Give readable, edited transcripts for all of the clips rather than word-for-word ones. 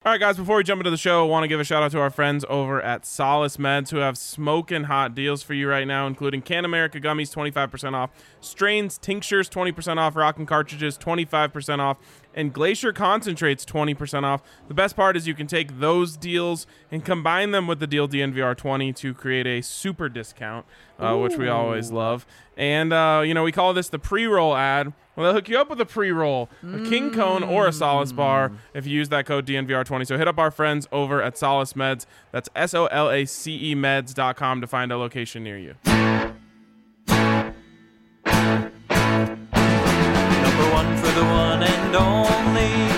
All right, guys, before we jump into the show, I want to give a shout out to our friends over at Solace Meds who have smoking hot deals for you right now, including Can America Gummies, 25% off, Strains Tinctures, 20% off, Rockin' Cartridges, 25% off, and Glacier Concentrates, 20% off. The best part is you can take those deals and combine them with the deal DNVR20 to create a super discount, which we always love. And, we call this the pre-roll ad. Well, they'll hook you up with a pre-roll, a King Cone, or a Solace Bar if you use that code DNVR20. So hit up our friends over at Solace Meds. That's SOLACE meds.com to find a location near you. Number one for the one and only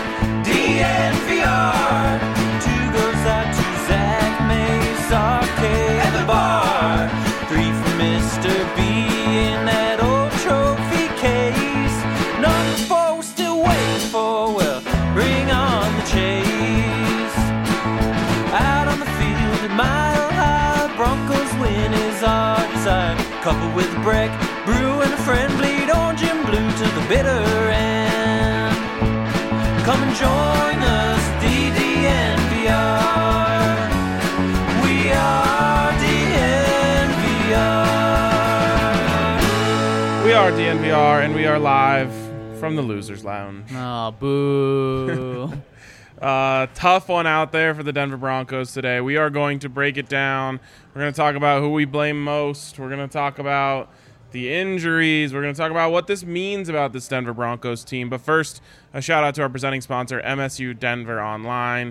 DNVR. Two goes out to Zach Mays, Arcade, and the bar. Three for Mr. B in that old trophy case. Number four, we're still waiting for, well, bring on the chase. Out on the field at Mile High, Broncos win is our desire. Couple with Breck, Brew, and a friend, bleed orange and blue to the bitter end. Come and join us, DNVR. We are DNVR. We are DNVR, and we are live from the Losers Lounge. Oh, boo. Tough one out there for the Denver Broncos today. We are going to break it down. We're going to talk about who we blame most. We're going to talk about the injuries. We're going to talk about what this means about this Denver Broncos team. But first, a shout out to our presenting sponsor, MSU Denver Online.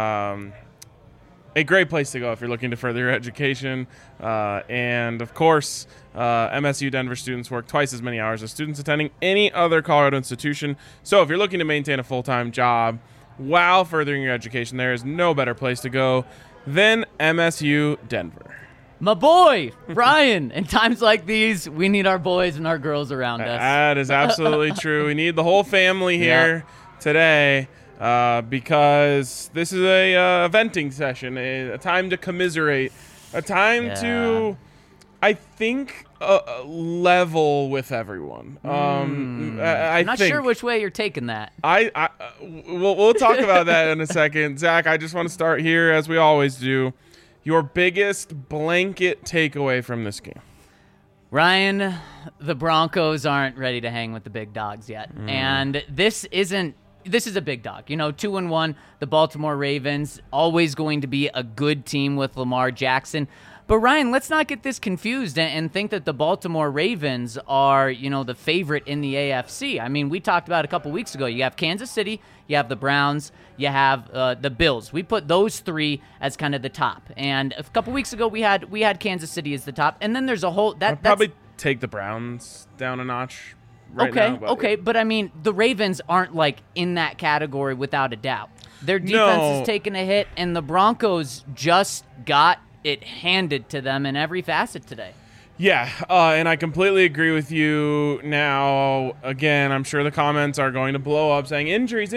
A great place to go if you're looking to further your education. And, of course, MSU Denver students work twice as many hours as students attending any other Colorado institution. So if you're looking to maintain a full-time job while furthering your education, there is no better place to go than MSU Denver. My boy, Ryan. In times like these, we need our boys and our girls around us. That is absolutely true. We need the whole family here today because this is a venting session, a time to commiserate, a time to, I think, level with everyone. I'm not sure which way you're taking that. We'll talk about that in a second. Zach, I just want to start here, as we always do. Your biggest blanket takeaway from this game. Ryan, the Broncos aren't ready to hang with the big dogs yet. And this is a big dog. 2-1, the Baltimore Ravens, always going to be a good team with Lamar Jackson. But Ryan, let's not get this confused and think that the Baltimore Ravens are, the favorite in the AFC. I mean, we talked about a couple weeks ago. You have Kansas City, you have the Browns, you have the Bills. We put those three as kind of the top. And a couple weeks ago, we had Kansas City as the top. And then there's a whole I'd probably take the Browns down a notch. Okay, but I mean, the Ravens aren't in that category without a doubt. Their defense is taking a hit, and the Broncos just got it handed to them in every facet today. Yeah, and I completely agree with you. Now, again, I'm sure the comments are going to blow up saying injuries.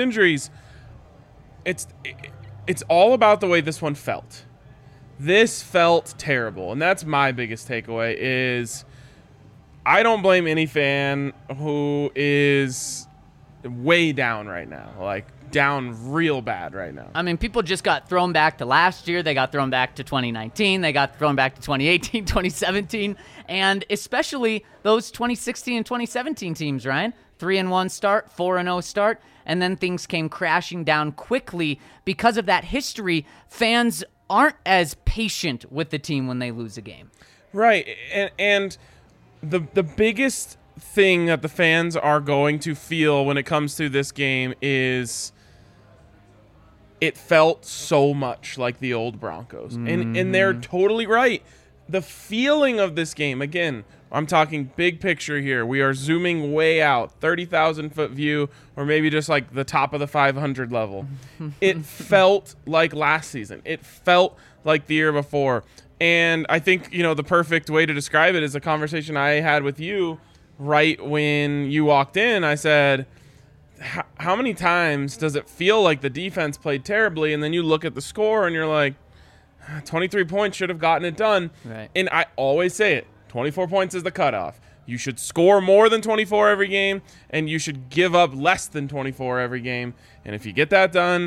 It's all about the way this one felt. This felt terrible, and that's my biggest takeaway is I don't blame any fan who is way down right now, down real bad right now. I mean, people just got thrown back to last year. They got thrown back to 2019. They got thrown back to 2018, 2017, and especially those 2016 and 2017 teams, Ryan. 3-1 start, 4-0 start, and then things came crashing down quickly. Because of that history, fans aren't as patient with the team when they lose a game. Right, and the biggest thing that the fans are going to feel when it comes to this game is it felt so much like the old Broncos. And they're totally right. The feeling of this game, again, I'm talking big picture here. We are zooming way out, 30,000-foot view, or maybe just the top of the 500 level. It felt like last season. It felt like the year before. And I think, the perfect way to describe it is a conversation I had with you right when you walked in. I said, how many times does it feel like the defense played terribly, and then you look at the score and you're like, 23 points should have gotten it done. Right. And I always say it, 24 points is the cutoff. You should score more than 24 every game, and you should give up less than 24 every game. And if you get that done,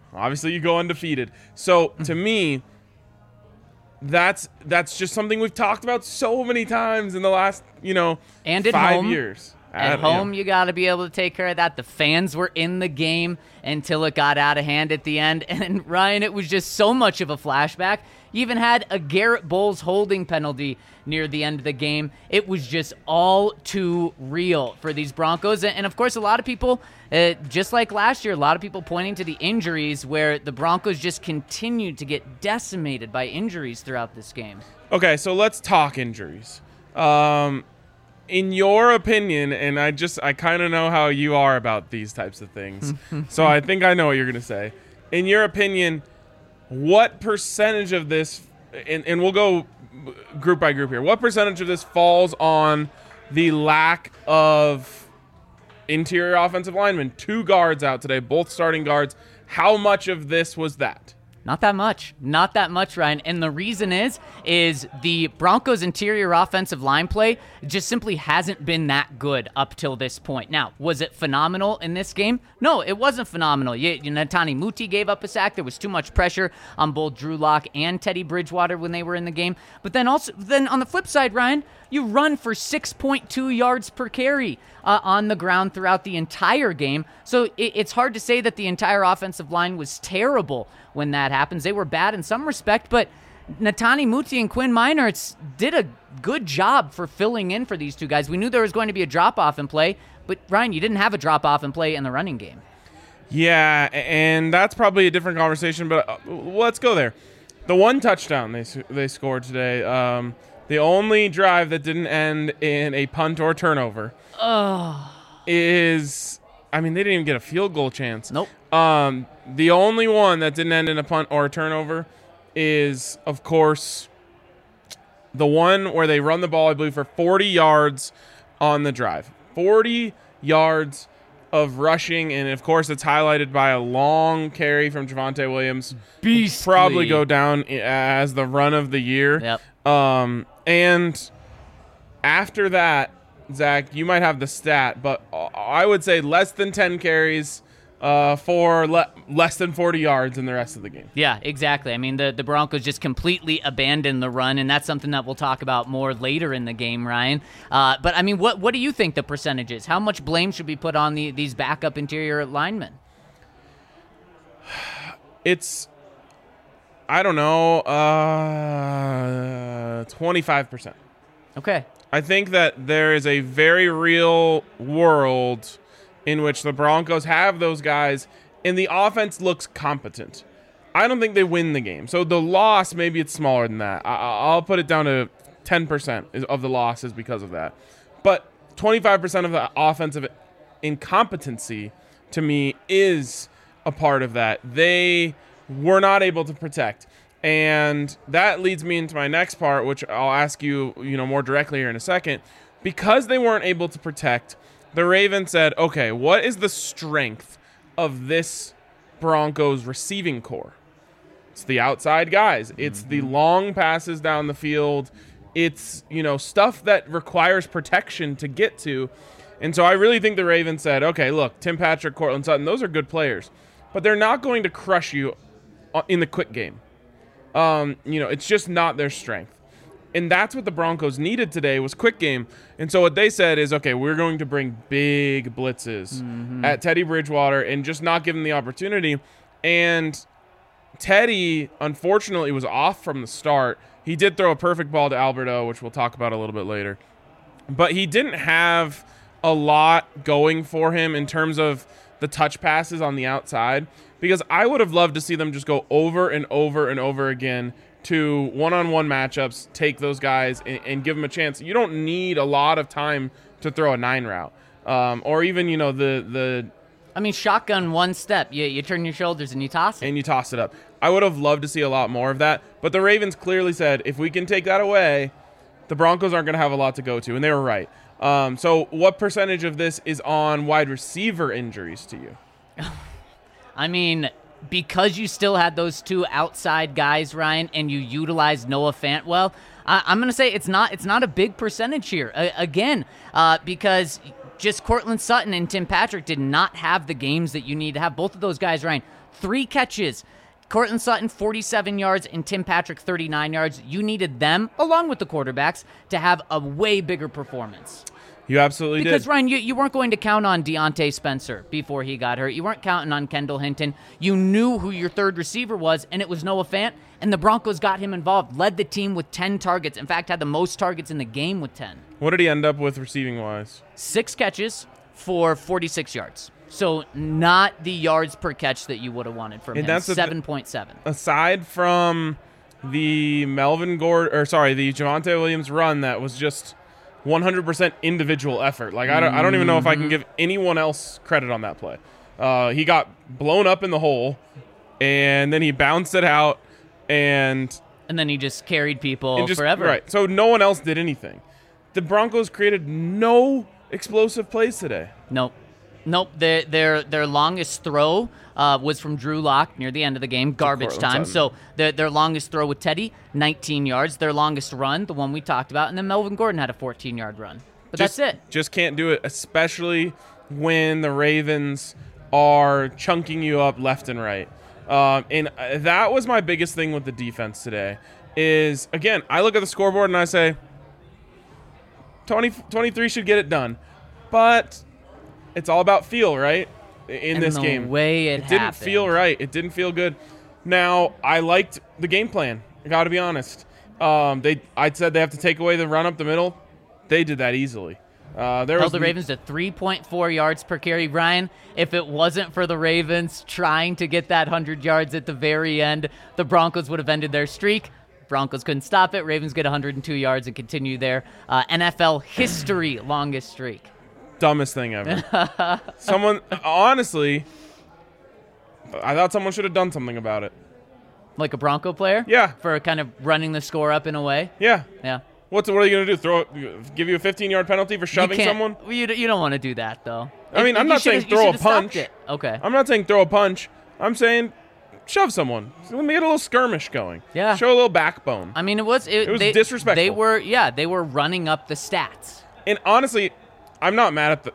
Obviously, you go undefeated. So to me, that's just something we've talked about so many times in the last, And at 5 home. years. At home, you got to be able to take care of that. The fans were in the game until it got out of hand at the end. And, Ryan, it was just so much of a flashback. You even had a Garrett Bowles holding penalty near the end of the game. It was just all too real for these Broncos. And of course, a lot of people, just like last year, a lot of people pointing to the injuries where the Broncos just continued to get decimated by injuries throughout this game. Okay, so let's talk injuries. In your opinion, and I kind of know how you are about these types of things, so I think I know what you're going to say. In your opinion, what percentage of this, and we'll go group by group here, what percentage of this falls on the lack of interior offensive linemen? 2 guards out today, both starting guards. How much of this was that? Not that much. Not that much, Ryan. And the reason is the Broncos' interior offensive line play just simply hasn't been that good up till this point. Now, was it phenomenal in this game? No, it wasn't phenomenal. Netani Muti gave up a sack. There was too much pressure on both Drew Lock and Teddy Bridgewater when they were in the game. But then on the flip side, Ryan, you run for 6.2 yards per carry on the ground throughout the entire game. So it's hard to say that the entire offensive line was terrible when that happens. They were bad in some respect, but Netani Muti and Quinn Meinerz did a good job for filling in for these two guys. We knew there was going to be a drop-off in play, but Ryan, you didn't have a drop-off in play in the running game. Yeah, and that's probably a different conversation, but let's go there. The one touchdown they scored today, the only drive that didn't end in a punt or turnover is, they didn't even get a field goal chance. Nope. The only one that didn't end in a punt or a turnover is, of course, the one where they run the ball, I believe, for 40 yards on the drive. 40 yards of rushing, and of course it's highlighted by a long carry from Javonte Williams. Beastly. Probably go down as the run of the year. Yep. And after that, Zach, you might have the stat, but I would say less than 10 carries for less than 40 yards in the rest of the game. Yeah, exactly. The Broncos just completely abandoned the run, and that's something that we'll talk about more later in the game, Ryan. But what do you think the percentage is? How much blame should be put on these backup interior linemen? I don't know, 25%. Okay. I think that there is a very real world in which the Broncos have those guys and the offense looks competent. I don't think they win the game. So the loss, maybe it's smaller than that. I'll put it down to 10% of the losses because of that. But 25% of the offensive incompetency, to me, is a part of that. They were not able to protect. And that leads me into my next part, which I'll ask you, more directly here in a second. Because they weren't able to protect, the Ravens said, okay, what is the strength of this Broncos receiving core? It's the outside guys. It's the long passes down the field. It's, stuff that requires protection to get to. And so I really think the Ravens said, okay, look, Tim Patrick, Cortland Sutton, those are good players, but they're not going to crush you in the quick game. It's just not their strength. And that's what the Broncos needed today was quick game. And so what they said is, okay, we're going to bring big blitzes at Teddy Bridgewater and just not give him the opportunity. And Teddy, unfortunately, was off from the start. He did throw a perfect ball to Alberto, which we'll talk about a little bit later. But he didn't have a lot going for him in terms of the touch passes on the outside, because I would have loved to see them just go over and over and over again to one-on-one matchups, take those guys and give them a chance. You don't need a lot of time to throw a 9 route. Or even, shotgun one step. You turn your shoulders and you toss it. And you toss it up. I would have loved to see a lot more of that. But the Ravens clearly said, if we can take that away, the Broncos aren't going to have a lot to go to. And they were right. So what percentage of this is on wide receiver injuries to you? Because you still had those two outside guys, Ryan, and you utilized Noah Fant well, I'm going to say it's not a big percentage here. Because just Cortland Sutton and Tim Patrick did not have the games that you need to have. Both of those guys, Ryan, 3 catches. Cortland Sutton, 47 yards, and Tim Patrick, 39 yards. You needed them, along with the quarterbacks, to have a way bigger performance. You absolutely Because, did. Ryan, you weren't going to count on Deontay Spencer before he got hurt. You weren't counting on Kendall Hinton. You knew who your third receiver was, and it was Noah Fant, and the Broncos got him involved, led the team with 10 targets. In fact, had the most targets in the game with 10. What did he end up with receiving-wise? 6 catches for 46 yards. So not the yards per catch that you would have wanted from him. that's the 7.7. Aside from the the Javonte Williams run that was just 100% individual effort. Like I don't even know if I can give anyone else credit on that play. He got blown up in the hole, and then he bounced it out, and then he just carried people just, forever. Right. So no one else did anything. The Broncos created no explosive plays today. Nope. Their longest throw was from Drew Lock near the end of the game, garbage time. So their longest throw with Teddy, 19 yards. Their longest run, the one we talked about, and then Melvin Gordon had a 14-yard run. But that's it. Just can't do it, especially when the Ravens are chunking you up left and right. And that was my biggest thing with the defense today is, again, I look at the scoreboard and I say, 23 should get it done. But it's all about feel, right? In this game. The way it didn't happened. feel right. It didn't feel good. Now, I liked the game plan. I got to be honest. I said they have to take away the run up the middle. They did that easily. Held the Ravens to 3.4 yards per carry. Ryan, if it wasn't for the Ravens trying to get that 100 yards at the very end, the Broncos would have ended their streak. Broncos couldn't stop it. Ravens get 102 yards and continue their NFL history longest streak. Dumbest thing ever. Honestly, I thought someone should have done something about it. Like a Bronco player? Yeah. For kind of running the score up in a way? Yeah. Yeah. What are you going to do? Give you a 15-yard penalty for shoving someone? You don't want to do that, though. I mean, I'm not saying throw a punch. Okay. I'm not saying throw a punch. I'm saying shove someone. Let me get a little skirmish going. Yeah. Show a little backbone. I mean, it was disrespectful. They were running up the stats. And honestly, I'm not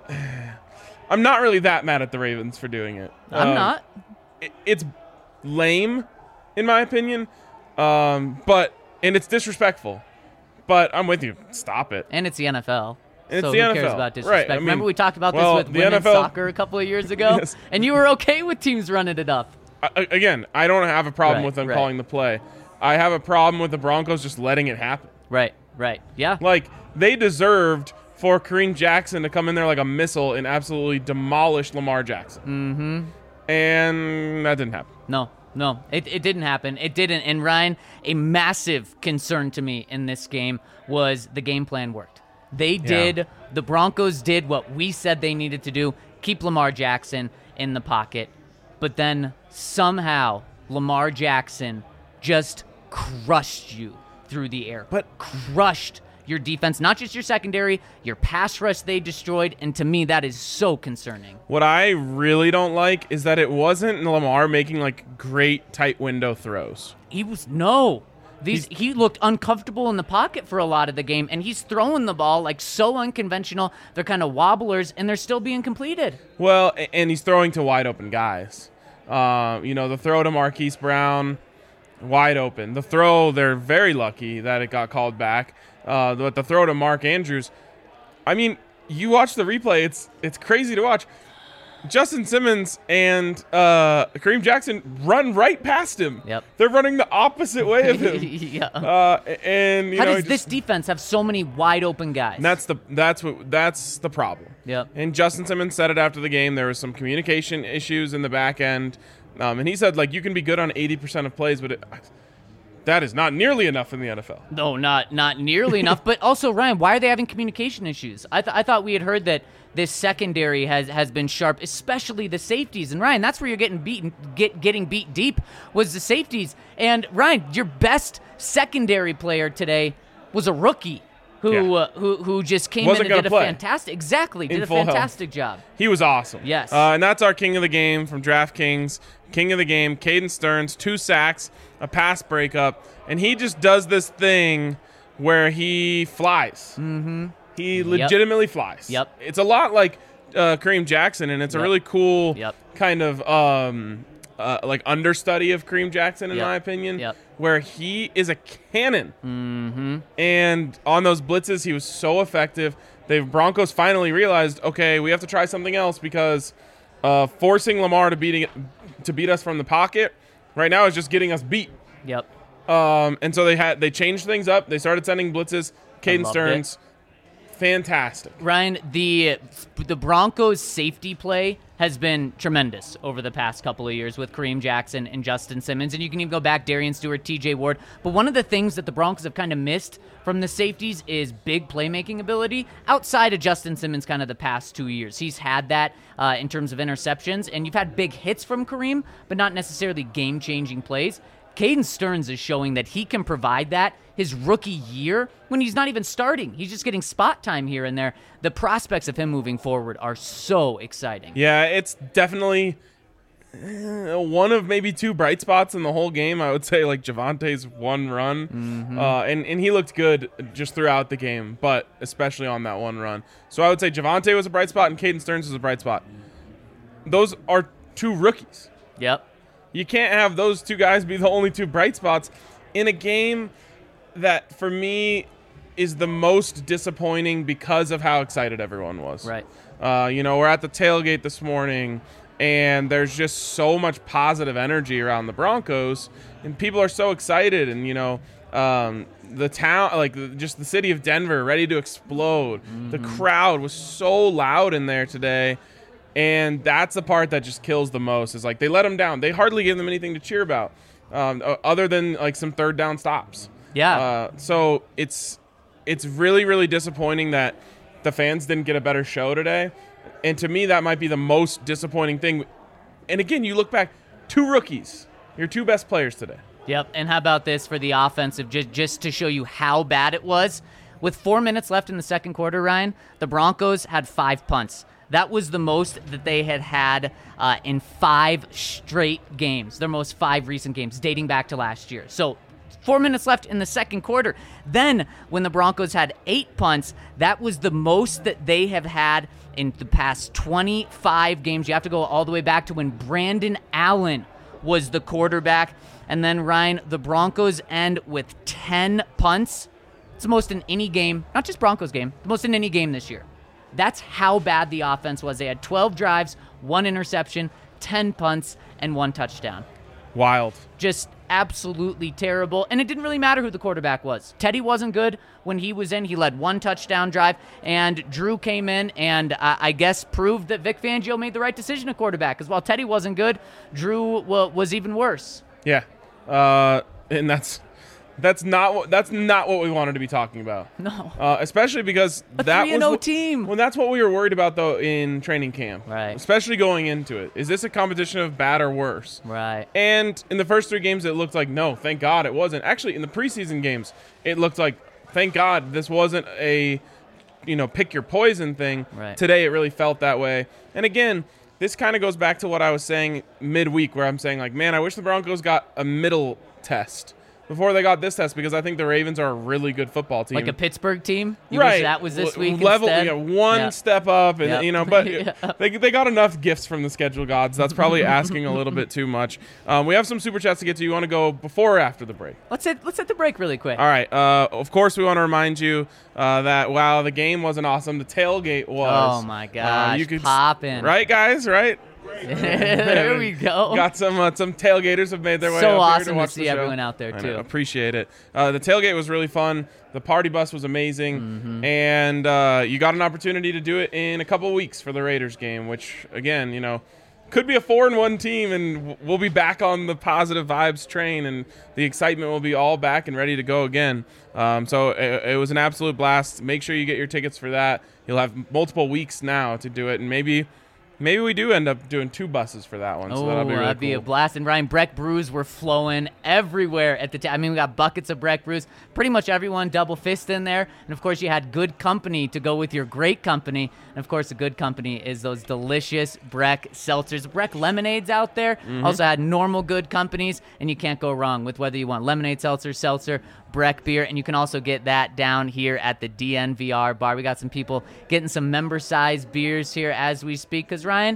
really that mad at the Ravens for doing it. I'm not. It's lame, in my opinion, and it's disrespectful. But I'm with you. Stop it. And it's the NFL. And so it's the who NFL. cares about disrespect? Right. I mean, remember we talked about this with the women's NFL soccer a couple of years ago? Yes. And you were okay with teams running it up. Again, I don't have a problem Right, with them right. calling the play. I have a problem with the Broncos just letting it happen. Right. Yeah. Like, they deserved for Kareem Jackson to come in there like a missile and absolutely demolish Lamar Jackson. Mm-hmm. And that didn't happen. No, it didn't happen. It didn't. And Ryan, a massive concern to me in this game was the game plan worked. The Broncos did what we said they needed to do, keep Lamar Jackson in the pocket. But then somehow Lamar Jackson just crushed you through the air. Crushed your defense, not just your secondary, your pass rush they destroyed, and to me that is so concerning. What I really don't like is that it wasn't Lamar making like great tight window throws. He looked uncomfortable in the pocket for a lot of the game, and he's throwing the ball like so unconventional. They're kind of wobblers, and they're still being completed. Well, and he's throwing to wide open guys. The throw to Marquise Brown, wide open. The throw, they're very lucky that it got called back. But the throw to Mark Andrews, I mean, you watch the replay, it's crazy to watch. Justin Simmons and Kareem Jackson run right past him. Yep. They're running the opposite way of him. Yeah. How does this defense have so many wide open guys? That's the problem. Yep. And Justin Simmons said it after the game. There was some communication issues in the back end, and he said like you can be good on 80% of plays, but that is not nearly enough in the NFL. No, not nearly enough. But also, Ryan, why are they having communication issues? I thought we had heard that this secondary has been sharp, especially the safeties. And Ryan, that's where you're getting beat deep was the safeties. And Ryan, your best secondary player today was a rookie who just came in and did a fantastic job. He was awesome. Yes. And that's our king of the game from DraftKings. King of the game, Caden Stearns, 2 sacks, a pass breakup, and he just does this thing where he flies. Mm-hmm. He legitimately flies. Yep. It's a lot like Kareem Jackson, and it's a really cool kind of like understudy of Kareem Jackson, in Yep. my opinion, Yep. where he is a cannon. Mm-hmm. And on those blitzes, he was so effective. The Broncos finally realized, okay, we have to try something else because forcing Lamar to beat us from the pocket right now is just getting us beat. Yep. And so they changed things up. They started sending blitzes. Caden loved Stearns, fantastic. Ryan, the Broncos' safety play has been tremendous over the past couple of years with Kareem Jackson and Justin Simmons, and you can even go back Darian Stewart, TJ Ward. But one of the things that the Broncos have kind of missed from the safeties is big playmaking ability outside of Justin Simmons kind of the past 2 years. He's had that in terms of interceptions, and you've had big hits from Kareem, but not necessarily game-changing plays. Caden Stearns is showing that he can provide that his rookie year when he's not even starting. He's just getting spot time here and there. The prospects of him moving forward are so exciting. Yeah, it's definitely one of maybe two bright spots in the whole game. I would say like Javante's one run, and he looked good just throughout the game, but especially on that one run. So I would say Javante was a bright spot and Caden Stearns was a bright spot. Those are two rookies. Yep. You can't have those two guys be the only two bright spots in a game that, for me, is the most disappointing because of how excited everyone was. Right. We're at the tailgate this morning, and there's just so much positive energy around the Broncos, and people are so excited, and, the town, just the city of Denver, ready to explode. Mm-hmm. The crowd was so loud in there today. And that's the part that just kills the most is like they let them down. They hardly give them anything to cheer about other than like some third down stops. Yeah. So it's really, really disappointing that the fans didn't get a better show today. And to me, that might be the most disappointing thing. And again, you look back, two rookies, your two best players today. Yep. And how about this for the offensive, just to show you how bad it was? With 4 minutes left in the second quarter, Ryan, the Broncos had 5 punts. That was the most that they had in 5 straight games, their most 5 recent games, dating back to last year. So 4 minutes left in the second quarter. Then when the Broncos had 8 punts, that was the most that they have had in the past 25 games. You have to go all the way back to when Brandon Allen was the quarterback. And then, Ryan, the Broncos end with 10 punts. It's the most in any game, not just Broncos game, the most in any game this year. That's how bad the offense was. They had 12 drives, 1 interception, 10 punts, and 1 touchdown. Wild. Just absolutely terrible. And it didn't really matter who the quarterback was. Teddy wasn't good when he was in. He led 1 touchdown drive, and Drew came in and I guess proved that Vic Fangio made the right decision at quarterback. Because while Teddy wasn't good, Drew was even worse. Yeah. And that's not what we wanted to be talking about. No. Especially because that was 3-0 team. Well, that's what we were worried about though in training camp. Right. Especially going into it. Is this a competition of bad or worse? Right. And in the first 3 games, it looked like no, thank God it wasn't. Actually, in the preseason games, it looked like thank God this wasn't a pick your poison thing. Right. Today, it really felt that way. And again, this kind of goes back to what I was saying midweek, where I'm saying like, man, I wish the Broncos got a middle test before they got this test, because I think the Ravens are a really good football team. Like a Pittsburgh team? You right. wish that was this week level, instead? one step up, and Yep. but Yep. they got enough gifts from the schedule gods. That's probably asking a little bit too much. We have some super chats to get to. You want to go before or after the break? Let's hit the break really quick. All right. Of course, we want to remind you that while the game wasn't awesome, the tailgate was. Oh my gosh, you could popping. Right, guys? Right. There we go. Got some tailgaters have made their way So up here awesome to to watch see the show. everyone out there, I too. know, appreciate it. The tailgate was really fun. The party bus was amazing. Mm-hmm. And you got an opportunity to do it in a couple weeks for the Raiders game, which, again, could be a 4-1 team, and we'll be back on the positive vibes train, and the excitement will be all back and ready to go again. So it was an absolute blast. Make sure you get your tickets for that. You'll have multiple weeks now to do it, and maybe we do end up doing 2 buses for that one. So that'll be really that'd be cool. a blast. And Ryan, Breck brews were flowing everywhere at the time. I mean, we got buckets of Breck brews. Pretty much everyone double fist in there. And of course, you had good company to go with your great company. And of course, the good company is those delicious Breck seltzers. Breck lemonades out there also had normal good companies, and you can't go wrong with whether you want lemonade seltzer, Breck beer, and you can also get that down here at the DNVR bar. We got some people getting some member-sized beers here as we speak, because, Ryan,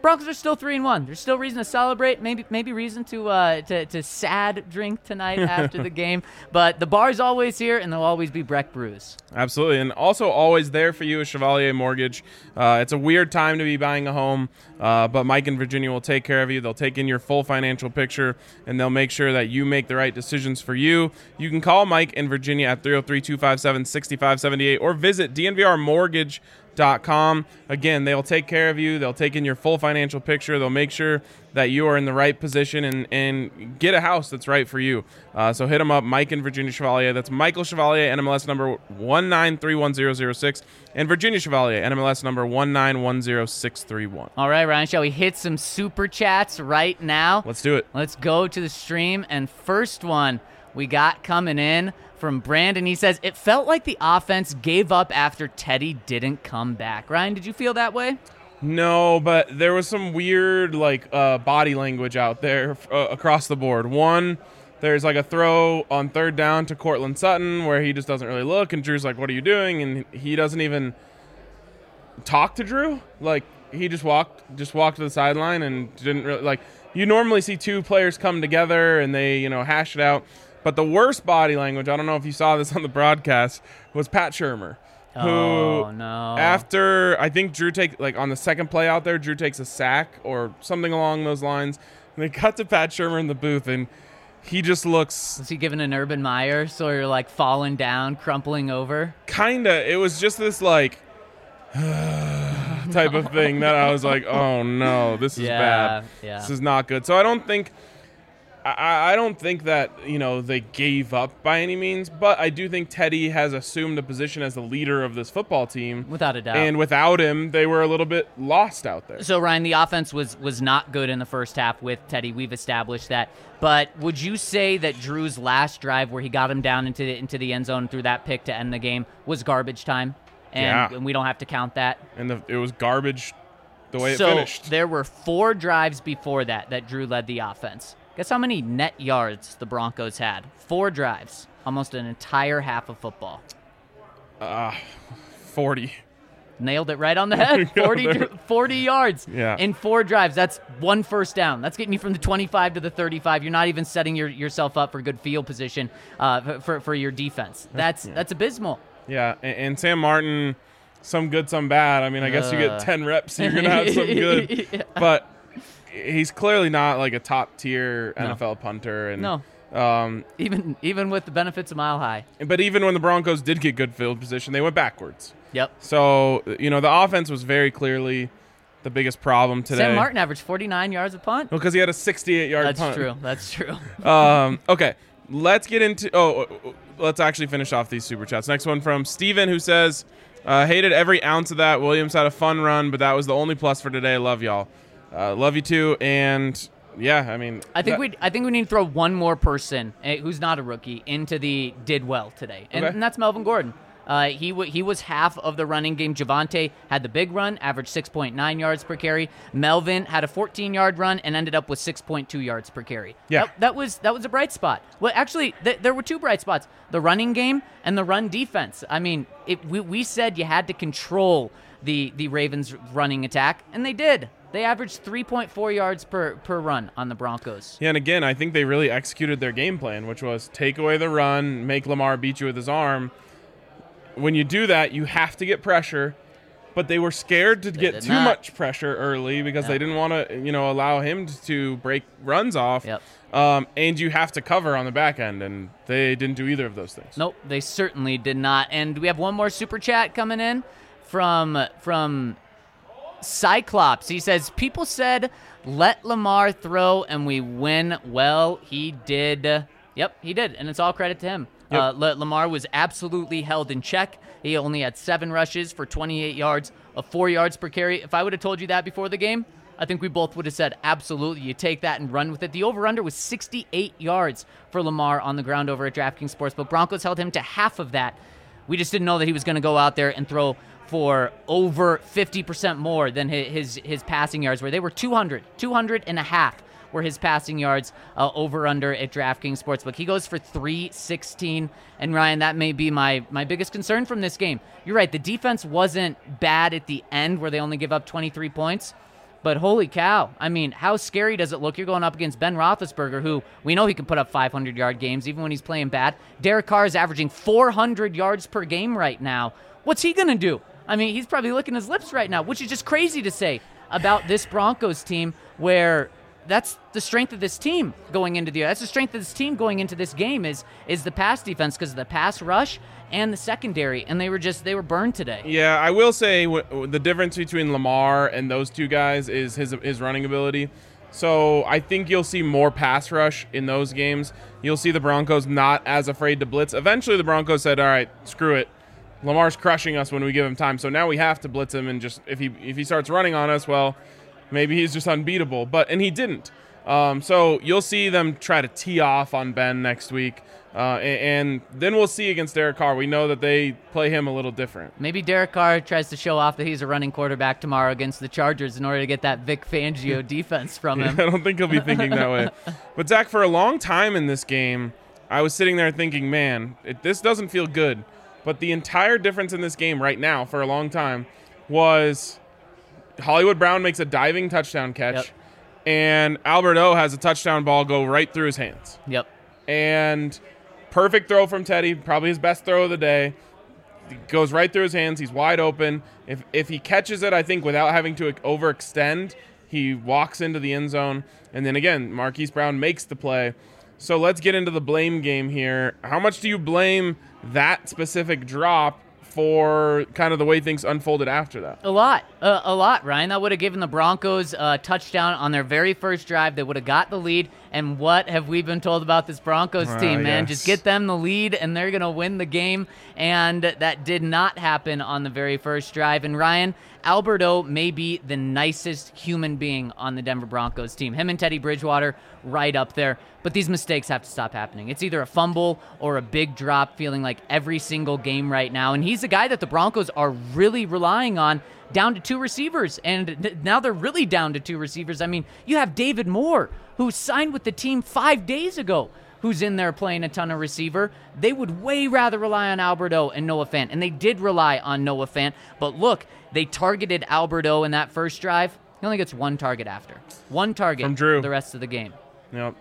Broncos are still 3-1. There's still reason to celebrate. Maybe reason to sad drink tonight after the game. But the bar's always here, and there'll always be Breck Brews. Absolutely, and also always there for you is Chevalier Mortgage. It's a weird time to be buying a home, but Mike and Virginia will take care of you. They'll take in your full financial picture, and they'll make sure that you make the right decisions for you. You can call Mike and Virginia at 303-257-6578 or visit DNVRmortgage.com. Again, they'll take care of you. They'll take in your full financial picture. They'll make sure that you are in the right position and get a house that's right for you. So hit them up, Mike and Virginia Chevalier. That's Michael Chevalier, NMLS number 1931006, and Virginia Chevalier, NMLS number 1910631. All right, Ryan, shall we hit some super chats right now? Let's do it. Let's go to the stream, and first one we got coming in from Brandon. He says, it felt like the offense gave up after Teddy didn't come back. Ryan, did you feel that way? No, but there was some weird body language out there across the board. One, there's like a throw on third down to Cortland Sutton where he just doesn't really look, and Drew's like, what are you doing? And he doesn't even talk to Drew. Like, he just walked to the sideline and didn't really, you normally see two players come together and they, hash it out. But the worst body language, I don't know if you saw this on the broadcast, was Pat Shurmur. Oh, no. After, I think Drew on the second play out there, Drew takes a sack or something along those lines. And they cut to Pat Shurmur in the booth, and he just looks... Was he giving an Urban Meyer, so you're falling down, crumpling over? Kinda. It was just this type of thing that I was like, oh no, this is bad. Yeah. This is not good. So I don't think that, they gave up by any means, but I do think Teddy has assumed a position as the leader of this football team. Without a doubt. And without him, they were a little bit lost out there. So, Ryan, the offense was not good in the first half with Teddy. We've established that. But would you say that Drew's last drive where he got him down into the end zone through that pick to end the game was garbage time? And we don't have to count that? And it was garbage the way it finished. So there were 4 drives before that Drew led the offense. Guess how many net yards the Broncos had? 4 drives. Almost an entire half of football. 40. Nailed it right on the head. 40 yards in 4 drives. That's 1 first down. That's getting you from the 25 to the 35. You're not even setting yourself up for good field position for your defense. That's abysmal. Yeah, and Sam Martin, some good, some bad. I mean, I guess you get 10 reps, you're going to have some good. Yeah. But he's clearly not like a top-tier NFL punter. And, no. Even with the benefits of Mile High. But even when the Broncos did get good field position, they went backwards. Yep. So, the offense was very clearly the biggest problem today. Sam Martin averaged 49 yards a punt. Well, because he had a 68-yard punt. That's true. Okay, let's get into... let's actually finish off these super chats. Next one from Steven, who says, hated every ounce of that. Williams had a fun run, but that was the only plus for today. Love y'all. Love you too. And yeah, I mean, I think we need to throw one more person who's not a rookie into the did well today, and that's Melvin Gordon. He was half of the running game. Javonte had the big run, averaged 6.9 yards per carry. Melvin had a 14-yard run and ended up with 6.2 yards per carry. Yeah, that was a bright spot. Well, actually, there were 2 bright spots: the running game and the run defense. I mean, we said you had to control the Ravens' running attack, and they did. They averaged 3.4 yards per run on the Broncos. Yeah, and again, I think they really executed their game plan, which was take away the run, make Lamar beat you with his arm. When you do that, you have to get pressure, but they were scared to get too much pressure early because they didn't want to, allow him to break runs off. Yep. And you have to cover on the back end, and they didn't do either of those things. Nope, they certainly did not. And we have one more super chat coming in from Cyclops. He says, people said, let Lamar throw and we win. Well, he did. Yep, he did, and it's all credit to him. Yep. Lamar was absolutely held in check. He only had 7 rushes for 28 yards of 4 yards per carry. If I would have told you that before the game, I think we both would have said, absolutely, you take that and run with it. The over-under was 68 yards for Lamar on the ground over at DraftKings Sportsbook. Broncos held him to half of that. We just didn't know that he was going to go out there and throw for over 50% more than his passing yards, where they were 200 and a half were his passing yards over-under at DraftKings Sportsbook. He goes for 316, and Ryan, that may be my biggest concern from this game. You're right, the defense wasn't bad at the end where they only give up 23 points, But holy cow, I mean, how scary does it look? You're going up against Ben Roethlisberger, who we know he can put up 500-yard games even when he's playing bad. Derek Carr is averaging 400 yards per game right now. What's he going to do? I mean, he's probably licking his lips right now, which is just crazy to say about this Broncos team, where that's the strength of this team going into the year. That's the strength of this team going into this game is the pass defense, because of the pass rush and the secondary, and they were burned today. Yeah, I will say the difference between Lamar and those two guys is his running ability. So I think you'll see more pass rush in those games. You'll see the Broncos not as afraid to blitz. Eventually the Broncos said, all right, screw it. Lamar's crushing us when we give him time, so now we have to blitz him, and just if he starts running on us, well, maybe he's just unbeatable. And he didn't. So you'll see them try to tee off on Ben next week. And then we'll see against Derek Carr. We know that they play him a little different. Maybe Derek Carr tries to show off that he's a running quarterback tomorrow against the Chargers in order to get that Vic Fangio defense from him. I don't think he'll be thinking that way. But, Zach, for a long time in this game, I was sitting there thinking, man, this doesn't feel good. But the entire difference in this game right now for a long time was Hollywood Brown makes a diving touchdown catch, Yep. and Albert O has a touchdown ball go right through his hands. Yep. And perfect throw from Teddy, probably his best throw of the day. It goes right through his hands. He's wide open. If he catches it, I think, without having to overextend, he walks into the end zone. And then, again, Marquise Brown makes the play. So let's get into the blame game here. How much do you blame that specific drop for kind of the way things unfolded after that? A lot, Ryan. That would have given the Broncos a touchdown on their very first drive. They would have got the lead. And what have we been told about this Broncos team, man? Yes. Just get them the lead, and they're going to win the game. And that did not happen on the very first drive. And Ryan, Alberto may be the nicest human being on the Denver Broncos team. Him and Teddy Bridgewater right up there. But these mistakes have to stop happening. It's either a fumble or a big drop, feeling like every single game right now. And he's a guy that the Broncos are really relying on, down to two receivers. And now they're really down to two receivers. I mean, you have David Moore, who signed with the team 5 days ago, who's in there playing a ton of receiver. They would way rather rely on Alberto and Noah Fant. And they did rely on Noah Fant. But look, they targeted Alberto in that first drive. He only gets one target after. One target From Drew. the rest of the game. Yep.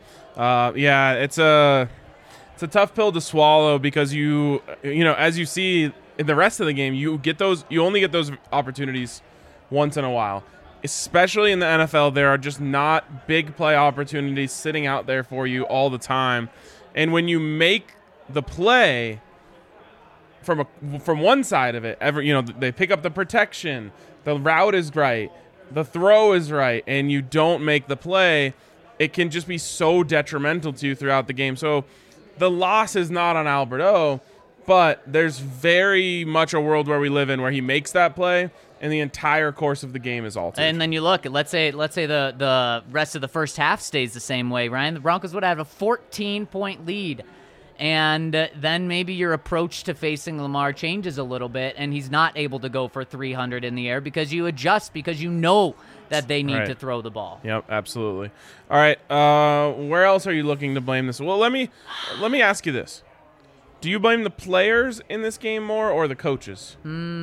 Yeah, it's a tough pill to swallow, because you know, as you see in the rest of the game, you only get those opportunities once in a while. Especially in the NFL, there are just not big play opportunities sitting out there for you all the time. And when you make the play from one side of it, they pick up the protection, the route is right, the throw is right, and you don't make the play, it can just be so detrimental to you throughout the game. So the loss is not on Alberto, but there's very much a world where we live in where he makes that play and the entire course of the game is altered. And then you look, let's say the rest of the first half stays the same way, Ryan. The Broncos would have a 14-point lead. And then maybe your approach to facing Lamar changes a little bit, and he's not able to go for 300 in the air because you adjust, because you know that they need to throw the ball. Yep, absolutely. All right, where else are you looking to blame this? Well, let me ask you this. Do you blame the players in this game more or the coaches?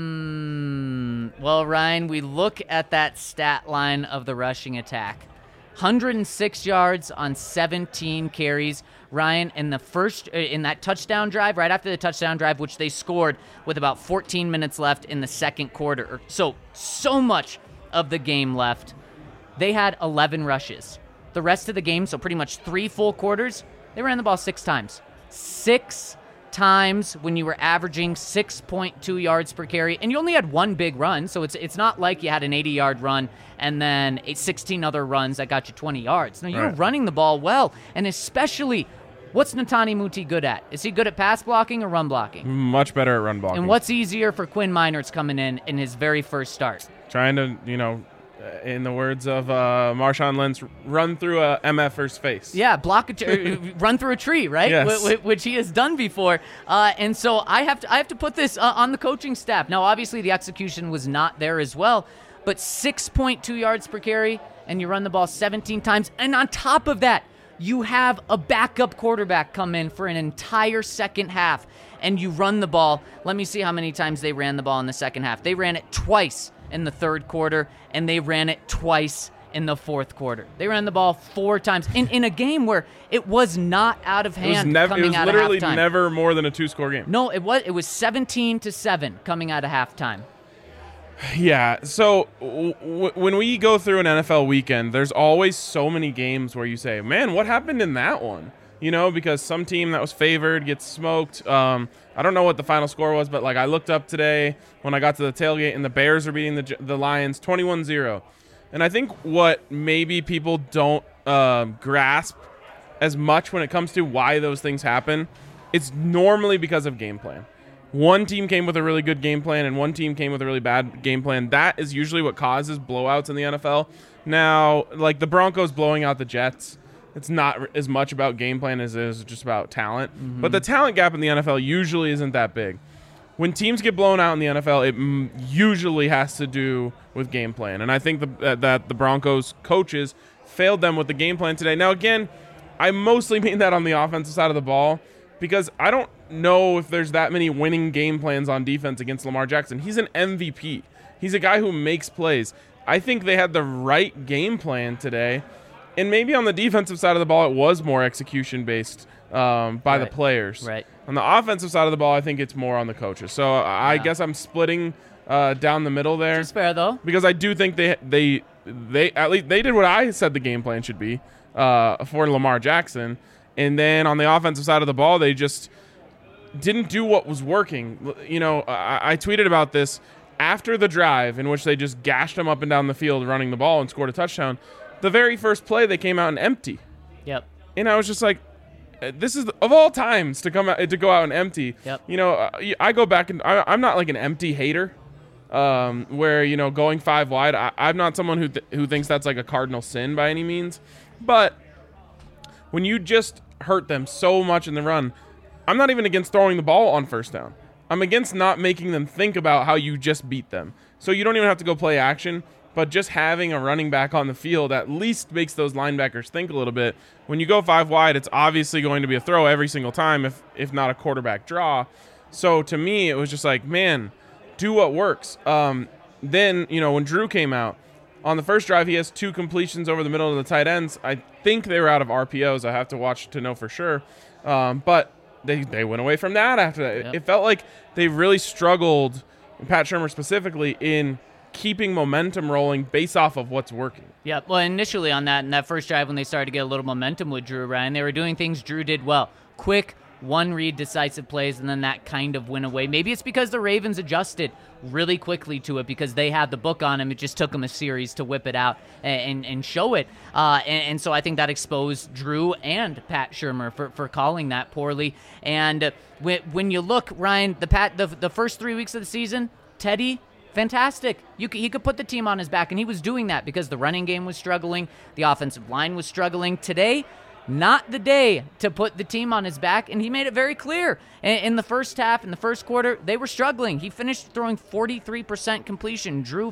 Well, Ryan, we look at that stat line of the rushing attack. 106 yards on 17 carries. Ryan, in that touchdown drive, right after the touchdown drive, which they scored with about 14 minutes left in the second quarter. So much of the game left. They had 11 rushes. The rest of the game, so pretty much 3 full quarters, they ran the ball 6 times. 6 times when you were averaging 6.2 yards per carry, and you only had one big run, so it's not like you had an 80-yard run and then 16 other runs that got you 20 yards. No, you were running the ball well, and especially, what's Netani Muti good at? Is he good at pass blocking or run blocking? Much better at run blocking. And what's easier for Quinn Meinerz coming in his very first start? Trying to, in the words of Marshawn Lynch, run through a MFer's face. Yeah, run through a tree, right? Yes. Which he has done before. And so I have to put this on the coaching staff. Now, obviously, the execution was not there as well, but 6.2 yards per carry, and you run the ball 17 times. And on top of that, you have a backup quarterback come in for an entire second half, and you run the ball. Let me see how many times they ran the ball in the second half. They ran it twice in the third quarter, and they ran it twice in the fourth quarter. They ran the ball 4 times in a game where it was not out of hand coming out of halftime. It was literally never more than a 2-score game. No, it was 17-7 coming out of halftime. Yeah, so when we go through an NFL weekend, there's always so many games where you say, man, what happened in that one? You know, because some team that was favored gets smoked. I don't know what the final score was, but like I looked up today when I got to the tailgate, and the Bears are beating the Lions 21-0. And I think what maybe people don't grasp as much when it comes to why those things happen, it's normally because of game plan. One team came with a really good game plan and one team came with a really bad game plan. That is usually what causes blowouts in the NFL. Now, like the Broncos blowing out the Jets, it's not as much about game plan as it is just about talent. Mm-hmm. But the talent gap in the NFL usually isn't that big. When teams get blown out in the NFL, it usually has to do with game plan. And I think that the Broncos coaches failed them with the game plan today. Now, again, I mostly mean that on the offensive side of the ball because I don't know if there's that many winning game plans on defense against Lamar Jackson. He's an MVP. He's a guy who makes plays. I think they had the right game plan today. And maybe on the defensive side of the ball, it was more execution-based by the players. Right. On the offensive side of the ball, I think it's more on the coaches. So I guess I'm splitting down the middle there. It's fair, though. Because I do think they at least they did what I said the game plan should be for Lamar Jackson. And then on the offensive side of the ball, they just didn't do what was working. You know, I tweeted about this after the drive in which they just gashed him up and down the field running the ball and scored a touchdown. The very first play, they came out and empty. Yep. And I was just like, this is of all times to come out to go out and empty. Yep. You know, I go back and I'm not like an empty hater, where you know going 5 wide. I'm not someone who thinks that's like a cardinal sin by any means. But when you just hurt them so much in the run, I'm not even against throwing the ball on first down. I'm against not making them think about how you just beat them. So you don't even have to go play action. But just having a running back on the field at least makes those linebackers think a little bit. When you go 5 wide, it's obviously going to be a throw every single time, if not a quarterback draw. So to me, it was just like, man, do what works. Then, you know, when Drew came out, on the first drive, he has 2 completions over the middle of the tight ends. I think they were out of RPOs. I have to watch to know for sure. But they went away from that after that. Yep. It felt like they really struggled, Pat Shurmur specifically, in keeping momentum rolling based off of what's working. Yeah, well, initially on that, in that first drive when they started to get a little momentum with Drew, Ryan, they were doing things Drew did well. Quick, one-read decisive plays, and then that kind of went away. Maybe it's because the Ravens adjusted really quickly to it because they had the book on him. It just took them a series to whip it out and show it. And so I think that exposed Drew and Pat Shurmur for calling that poorly. And when you look, Ryan, the first 3 weeks of the season, Teddy, fantastic. He could put the team on his back, and he was doing that because the running game was struggling, the offensive line was struggling. Today, not the day to put the team on his back, and he made it very clear. In the first half, in the first quarter, they were struggling. He finished throwing 43% completion, Drew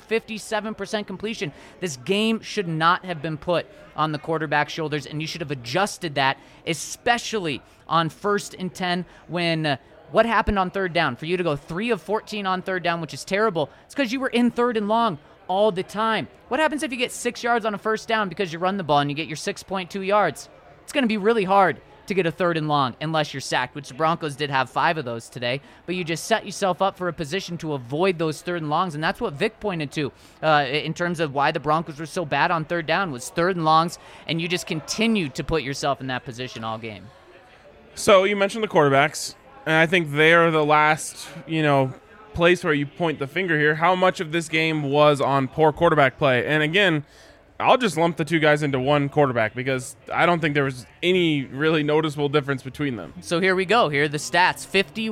57% completion. This game should not have been put on the quarterback's shoulders, and you should have adjusted that, especially on 1st and 10 when what happened on third down? For you to go 3 of 14 on third down, which is terrible, it's because you were in 3rd and long all the time. What happens if you get 6 yards on a first down because you run the ball and you get your 6.2 yards? It's going to be really hard to get a 3rd and long unless you're sacked, which the Broncos did have 5 of those today. But you just set yourself up for a position to avoid those 3rd and longs, and that's what Vic pointed to in terms of why the Broncos were so bad on third down was 3rd and longs, and you just continued to put yourself in that position all game. So you mentioned the quarterbacks. And I think they're the last, place where you point the finger here. How much of this game was on poor quarterback play? And again, I'll just lump the 2 guys into one quarterback because I don't think there was any really noticeable difference between them. So here we go. Here are the stats.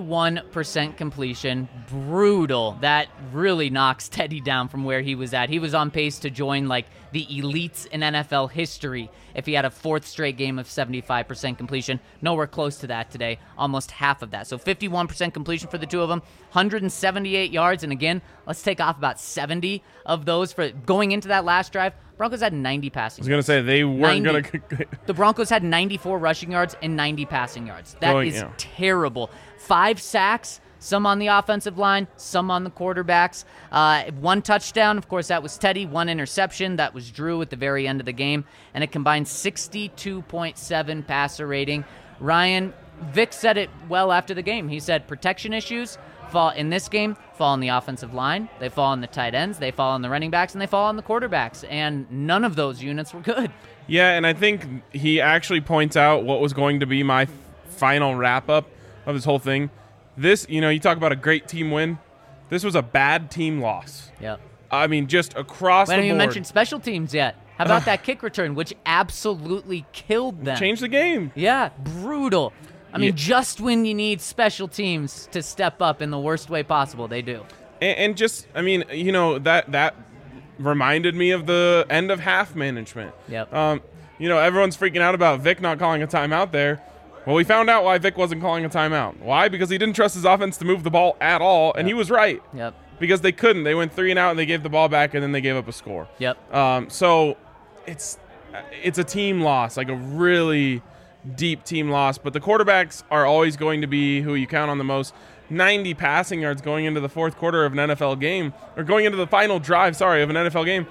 51% completion. Brutal. That really knocks Teddy down from where he was at. He was on pace to join the elites in NFL history if he had a 4th straight game of 75% completion. Nowhere close to that today. Almost half of that. So 51% completion for the 2 of them. 178 yards. And again, let's take off about 70 of those for going into that last drive. Broncos had 90 passing yards. I was going to say, they weren't going to... The Broncos had 94 rushing yards and 90 passing yards. That is terrible. 5 sacks, Some on the offensive line, some on the quarterbacks. 1 touchdown, of course, that was Teddy. 1 interception, that was Drew at the very end of the game. And a combined 62.7 passer rating. Ryan, Vic said it well after the game. He said protection issues fall in this game, fall on the offensive line, they fall on the tight ends, they fall on the running backs, and they fall on the quarterbacks. And none of those units were good. Yeah, and I think he actually points out what was going to be my final wrap-up of this whole thing. This, you talk about a great team win. This was a bad team loss. Yep. I mean, just across the board. We haven't even mentioned special teams yet. How about that kick return, which absolutely killed them? Changed the game. Yeah, brutal. I mean, just when you need special teams to step up in the worst way possible, they do. And just, I mean, that reminded me of the end of half management. Yep. Everyone's freaking out about Vic not calling a timeout there. Well, we found out why Vic wasn't calling a timeout. Why? Because he didn't trust his offense to move the ball at all, and he was right. Yep. Because they couldn't. They went 3 and out, and they gave the ball back, and then they gave up a score. Yep. So it's a team loss, like a really deep team loss. But the quarterbacks are always going to be who you count on the most. 90 passing yards going into the fourth quarter of an NFL game, or going into the final drive, of an NFL game,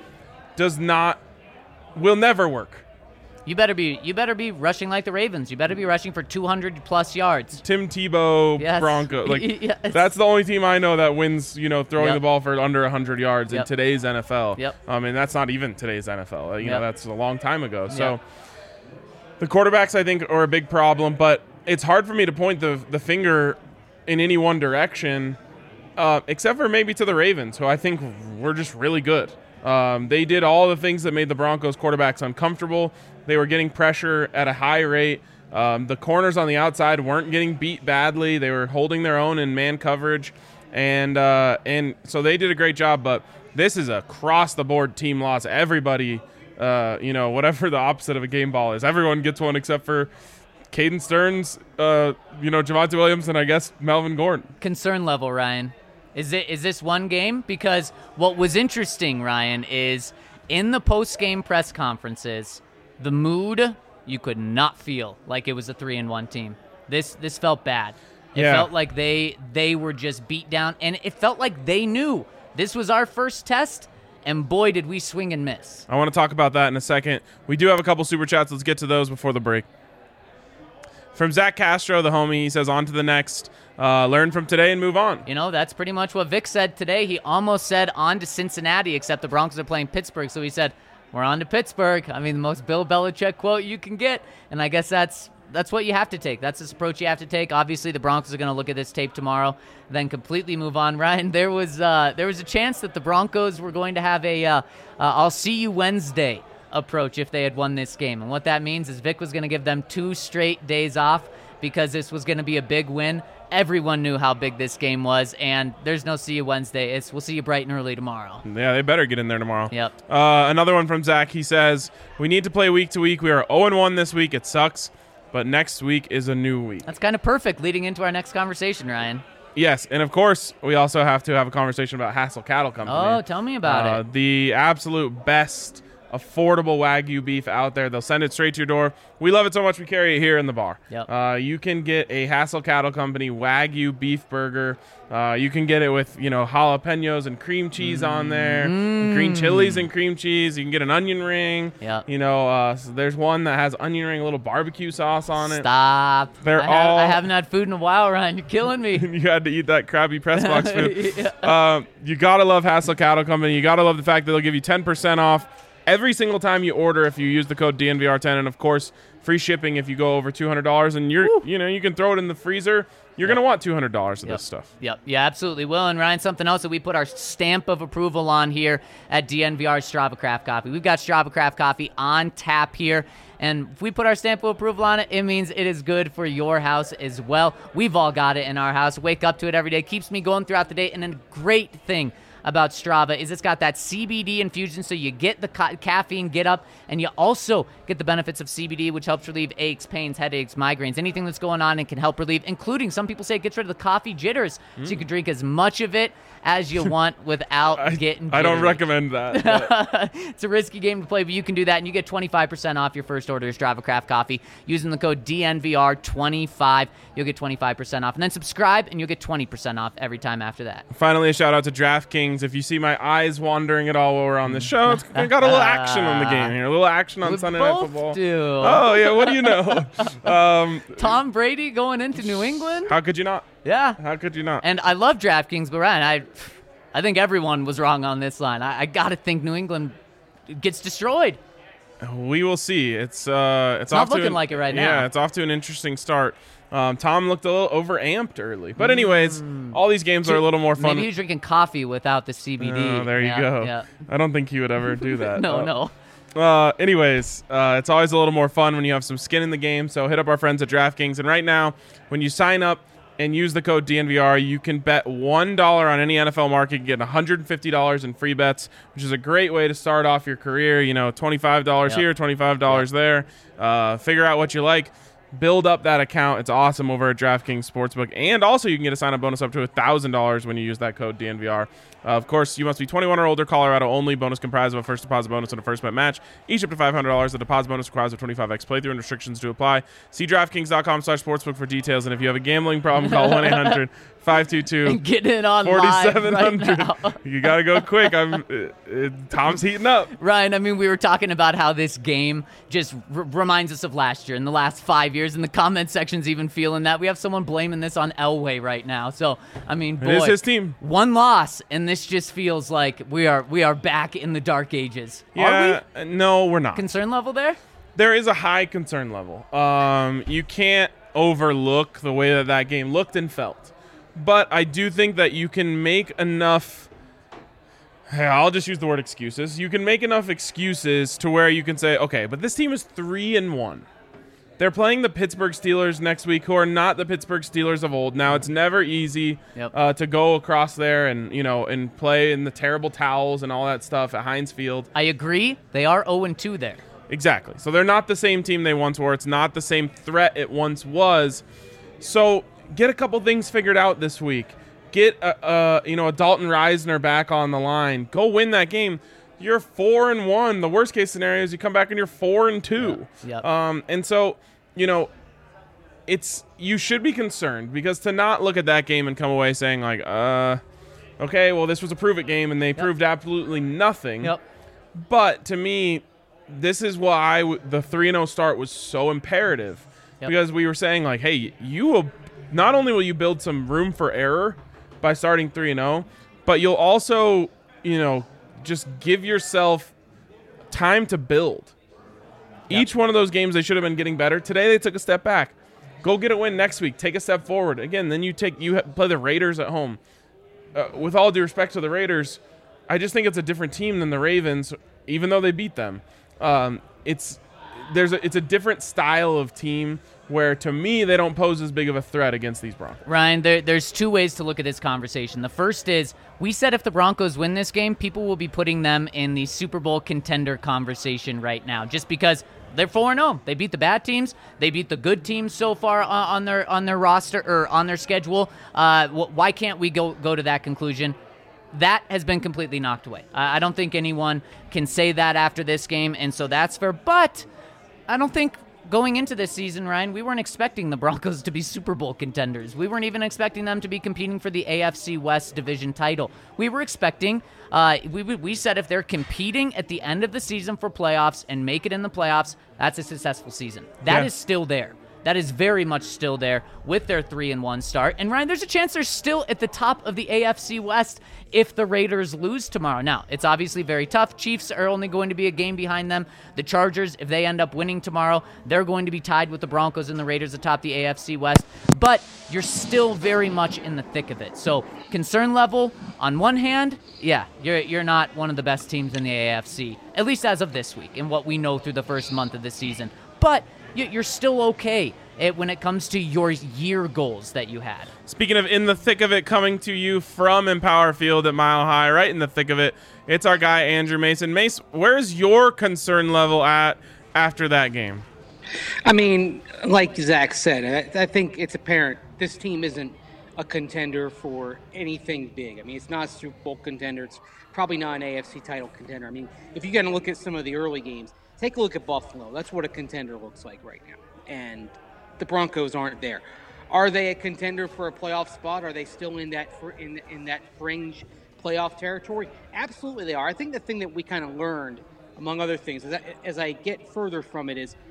will never work. You better be rushing like the Ravens. You better be rushing for 200+ yards. Tim Tebow, Yes. Bronco. Yes. That's the only team I know that wins, throwing Yep. the ball for under 100 yards in Yep. today's NFL. Yep. And that's not even today's NFL. Yep. That's a long time ago. So Yep. the quarterbacks, I think, are a big problem, but it's hard for me to point the finger in any one direction, except for maybe to the Ravens, who I think were just really good. They did all the things that made the Broncos quarterbacks uncomfortable. They were getting pressure at a high rate. The corners on the outside weren't getting beat badly. They were holding their own in man coverage, and so they did a great job. But this is a cross-the-board team loss. Everybody, whatever the opposite of a game ball is, everyone gets one except for Caden Stearns, Javonte Williams, and I guess Melvin Gordon. Concern level, Ryan. Is this one game? Because what was interesting, Ryan, is in the post-game press conferences, the mood you could not feel like it was a 3-1 team. This felt bad. It felt like they were just beat down, and it felt like they knew this was our first test, and boy, did we swing and miss. I want to talk about that in a second. We do have a couple super chats. Let's get to those before the break. From Zach Castro, the homie, he says, on to the next. Learn from today and move on. That's pretty much what Vic said today. He almost said on to Cincinnati, except the Broncos are playing Pittsburgh. So he said, we're on to Pittsburgh. I mean, the most Bill Belichick quote you can get. And I guess that's what you have to take. That's the approach you have to take. Obviously, the Broncos are going to look at this tape tomorrow, then completely move on. Ryan, there was a chance that the Broncos were going to have a I'll see you Wednesday approach if they had won this game. And what that means is Vic was going to give them 2 straight days off because this was going to be a big win. Everyone knew how big this game was, and there's no see you Wednesday. We'll see you bright and early tomorrow. Yeah, they better get in there tomorrow. Yep. Another one from Zach. He says, we need to play week to week. We are 0-1 this week. It sucks, but next week is a new week. That's kind of perfect leading into our next conversation, Ryan. Yes, and of course, we also have to have a conversation about Hassel Cattle Company. Oh, tell me about it. The absolute best affordable Wagyu beef out there. They'll send it straight to your door. We love it so much we carry it here in the bar. Yep. You can get a Hassel Cattle Company Wagyu beef burger. You can get it with, jalapenos and cream cheese on there, green chilies and cream cheese. You can get an onion ring. Yep. So there's one that has onion ring, a little barbecue sauce on it. Stop. I haven't had food in a while, Ryan. You're killing me. You had to eat that crappy press box food. You got to love Hassel Cattle Company. You got to love the fact that they'll give you 10% off every single time you order if you use the code DNVR10, and of course free shipping if you go over $200. And you can throw it in the freezer. You're going to want $200 of this stuff. Yep. Yeah, absolutely will. And Ryan, something else that we put our stamp of approval on here at DNVR Strava Craft Coffee. We've got Strava Craft Coffee on tap here. And if we put our stamp of approval on it, it means it is good for your house as well. We've all got it in our house. Wake up to it every day. Keeps me going throughout the day. And a great thing about Strava is it's got that CBD infusion, so you get the caffeine get up, and you also get the benefits of CBD, which helps relieve aches, pains, headaches, migraines, anything that's going on and can help relieve, including some people say it gets rid of the coffee jitters, so you can drink as much of it as you want without getting jittery. I don't recommend that. But. It's a risky game to play, but you can do that, and you get 25% off your first order of Strava Craft Coffee using the code DNVR25. You'll get 25% off, and then subscribe, and you'll get 20% off every time after that. Finally, a shout out to DraftKings. If you see my eyes wandering at all while we're on the show, it's got a little action on the game here. A little action on Sunday Night Football. Do. Oh, yeah, what do you know? Tom Brady going into New England? How could you not? Yeah. How could you not? And I love DraftKings, but Ryan, I think everyone was wrong on this line. I got to think New England gets destroyed. We will see. It's not off looking to like it right now. Yeah, it's off to an interesting start. Tom looked a little overamped early. But anyways, all these games are a little more fun. Maybe he's drinking coffee without the CBD. Oh, there you go. Yeah. I don't think he would ever do that. No. Anyways, it's always a little more fun when you have some skin in the game. So hit up our friends at DraftKings. And right now, when you sign up and use the code DNVR, you can bet $1 on any NFL market. You get $150 in free bets, which is a great way to start off your career. You know, $25 here, $25 there. Figure out what you like. Build up that account. It's awesome over at DraftKings Sportsbook. And also, you can get a sign-up bonus up to $1,000 when you use that code DNVR. Of course, you must be 21 or older, Colorado only. Bonus comprised of a first deposit bonus and a first bet match. Each up to $500. The deposit bonus requires a 25x playthrough and restrictions to apply. See DraftKings.com/sportsbook for details. And if you have a gambling problem, call 1-800-522 And get in on 4700. live right now. You got to go quick. Tom's heating up. Ryan, I mean, we were talking about how this game just reminds us of last year and the last 5 years, and the comment section's even feeling that. We have someone blaming this on Elway right now. So, I mean, boy, It is his team. One loss, and this just feels like we are back in the dark ages. Yeah, Are we? No, we're not. Concern level there? There is a high concern level. You can't overlook the way that game looked and felt. But I do think that you can make enough... I'll just use the word excuses. You can make enough excuses to where you can say, okay, but this team is 3-1. They're playing the Pittsburgh Steelers next week, who are not the Pittsburgh Steelers of old. Now, it's never easy to go across there and play in the terrible towels and all that stuff at Heinz Field. I agree. They are 0-2 there. Exactly. So they're not the same team they once were. It's not the same threat it once was. So get a couple things figured out this week. Get a Dalton Reisner back on the line. Go win that game. You're 4-1. The worst case scenario is you come back and you're 4-2. Yep. And so, you should be concerned, because to not look at that game and come away saying like, okay, well, this was a prove it game and they proved absolutely nothing. Yep. But to me, this is why the 3-0 start was so imperative, because we were saying like, hey, not only will you build some room for error by starting 3-0, but you'll also, just give yourself time to build. Each one of those games, they should have been getting better. Today, they took a step back. Go get a win next week. Take a step forward. Again, then you play the Raiders at home. With all due respect to the Raiders, I just think it's a different team than the Ravens, even though they beat them. It's a different style of team where, to me, they don't pose as big of a threat against these Broncos. Ryan, there's two ways to look at this conversation. The first is, we said if the Broncos win this game, people will be putting them in the Super Bowl contender conversation right now, just because they're 4-0. They beat the bad teams. They beat the good teams so far on their roster or on their schedule. Why can't we go to that conclusion? That has been completely knocked away. I don't think anyone can say that after this game, and so that's fair. But I don't think going into this season, Ryan, we weren't expecting the Broncos to be Super Bowl contenders. We weren't even expecting them to be competing for the AFC West division title. We were expecting, we said if they're competing at the end of the season for playoffs and make it in the playoffs, that's a successful season. That is still there. That is very much still there with their 3-1 start. And Ryan, there's a chance they're still at the top of the AFC West if the Raiders lose tomorrow. Now, it's obviously very tough. Chiefs are only going to be a game behind them. The Chargers, if they end up winning tomorrow, they're going to be tied with the Broncos and the Raiders atop the AFC West. But you're still very much in the thick of it. So concern level, on one hand, you're not one of the best teams in the AFC, at least as of this week and what we know through the first month of the season. But you're still okay. when it comes to your year goals that you had. Speaking of in the thick of it, coming to you from Empower Field at Mile High, right in the thick of it, it's our guy Andrew Mason. Mace, where's your concern level at after that game? I mean, like Zach said, I think it's apparent this team isn't a contender for anything big. I mean, it's not a Super Bowl contender. It's probably not an AFC title contender. I mean, if you're going to look at some of the early games, take a look at Buffalo. That's what a contender looks like right now. And the Broncos aren't there. Are they a contender for a playoff spot? Are they still in that in that fringe playoff territory? Absolutely they are. I think the thing that we kind of learned, among other things, as I get further from it, is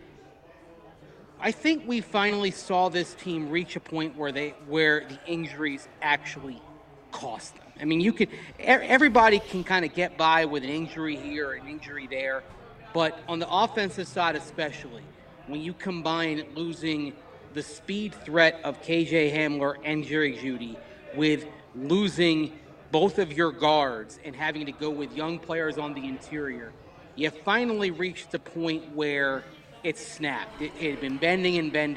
I think we finally saw this team reach a point where the injuries actually cost them. I mean, everybody can kind of get by with an injury here or an injury there, but on the offensive side especially, when you combine losing the speed threat of KJ Hamler and Jerry Jeudy with losing both of your guards and having to go with young players on the interior, you finally reached the point where it snapped. It had been bending,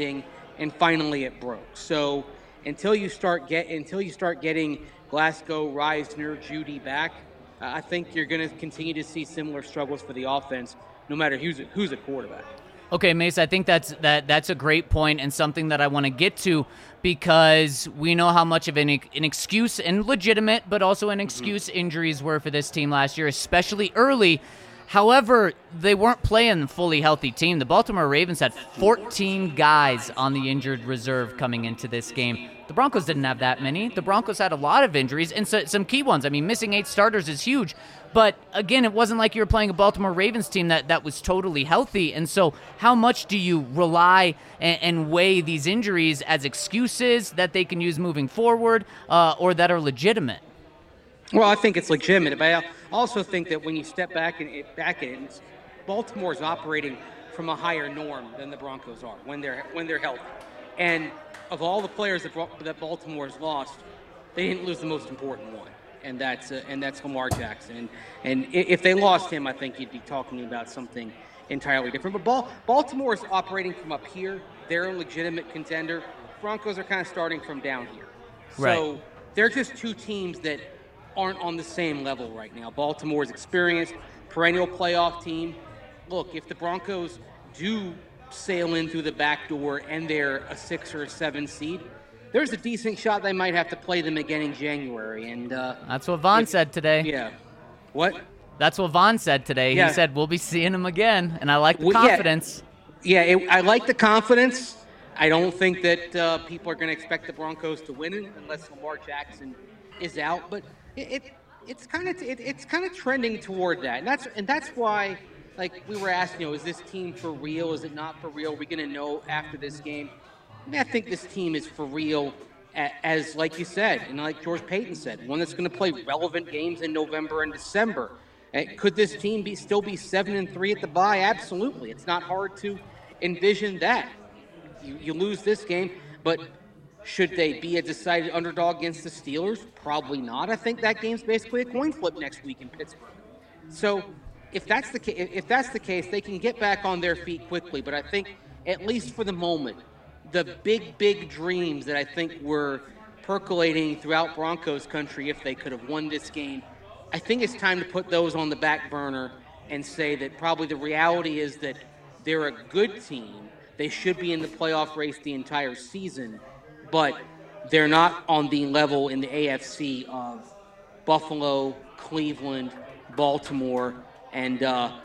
and finally it broke. So until you start getting Glasgow, Reisner, Jeudy back, I think you're going to continue to see similar struggles for the offense, no matter who's a quarterback. Okay, Mace, I think that's a great point and something that I want to get to, because we know how much of an excuse, and legitimate, but also an excuse, injuries were for this team last year, especially early. However, they weren't playing a fully healthy team. The Baltimore Ravens had 14 guys on the injured reserve coming into this game. The Broncos didn't have that many. The Broncos had a lot of injuries, and some key ones. I mean, missing 8 starters is huge. But, again, it wasn't like you were playing a Baltimore Ravens team that was totally healthy. And so how much do you rely and weigh these injuries as excuses that they can use moving forward or that are legitimate? Well, I think it's legitimate, but I also think that when you step back in, Baltimore's operating from a higher norm than the Broncos are when they're healthy. And of all the players that Baltimore's lost, they didn't lose the most important one, and that's Lamar Jackson. And if they lost him, I think you'd be talking about something entirely different. But Baltimore's operating from up here; they're a legitimate contender. Broncos are kind of starting from down here, right. So they're just two teams that aren't on the same level right now. Baltimore's experienced, perennial playoff team. Look, if the Broncos do sail in through the back door and they're a 6 or a 7 seed, there's a decent shot they might have to play them again in January. And that's what Vaughn said today. Yeah. What? That's what Vaughn said today. Yeah. He said, we'll be seeing him again, and I like the confidence. I like the confidence. I don't think that people are going to expect the Broncos to win it unless Lamar Jackson is out, but it's kind of trending toward that, and that's why, like we were asking, is this team for real? Is it not for real? Are we going to know after this game? I mean, I think this team is for real, as like you said, and like George Payton said, one that's going to play relevant games in November and December. Could this team still be 7-3 at the bye? Absolutely. It's not hard to envision that. You lose this game, but should they be a decided underdog against the Steelers? Probably not. I think that game's basically a coin flip next week in Pittsburgh. So if that's the case, they can get back on their feet quickly. But I think, at least for the moment, the big dreams that I think were percolating throughout Broncos country, if they could have won this game, I think it's time to put those on the back burner and say that probably the reality is that they're a good team. They should be in the playoff race the entire season, but they're not on the level in the AFC of Buffalo, Cleveland, Baltimore, and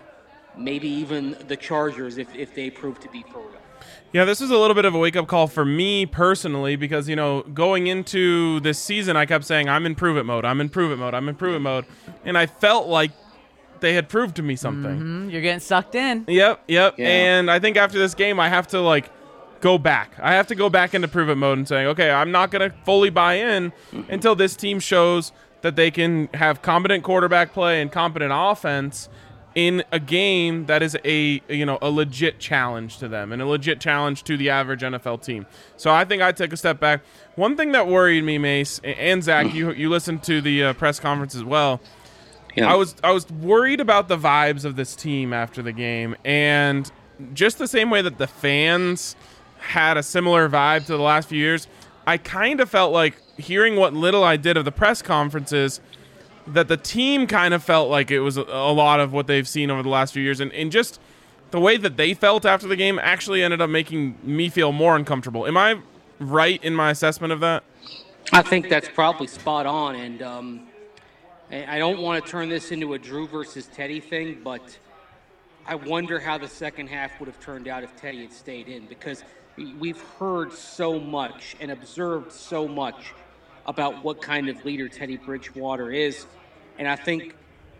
maybe even the Chargers if they prove to be for real. Yeah, this was a little bit of a wake-up call for me personally because, going into this season, I kept saying, I'm in prove-it mode, I'm in prove-it mode, I'm in prove-it mode, and I felt like they had proved to me something. Mm-hmm. You're getting sucked in. Yep. Yeah. And I think after this game, I have to, go back. I have to go back into prove-it mode and saying, okay, I'm not going to fully buy in until this team shows that they can have competent quarterback play and competent offense in a game that is a legit challenge to them and a legit challenge to the average NFL team. So I think I take a step back. One thing that worried me, Mace, and Zach, you listened to the press conference as well. Yeah. I was worried about the vibes of this team after the game, and just the same way that the fans had a similar vibe to the last few years. I kind of felt like, hearing what little I did of the press conferences, that the team kind of felt like it was a lot of what they've seen over the last few years. And just the way that they felt after the game actually ended up making me feel more uncomfortable. Am I right in my assessment of that? I think that's probably spot on. And I don't want to turn this into a Drew versus Teddy thing, but I wonder how the second half would have turned out if Teddy had stayed in, because we've heard so much and observed so much about what kind of leader Teddy Bridgewater is. And I think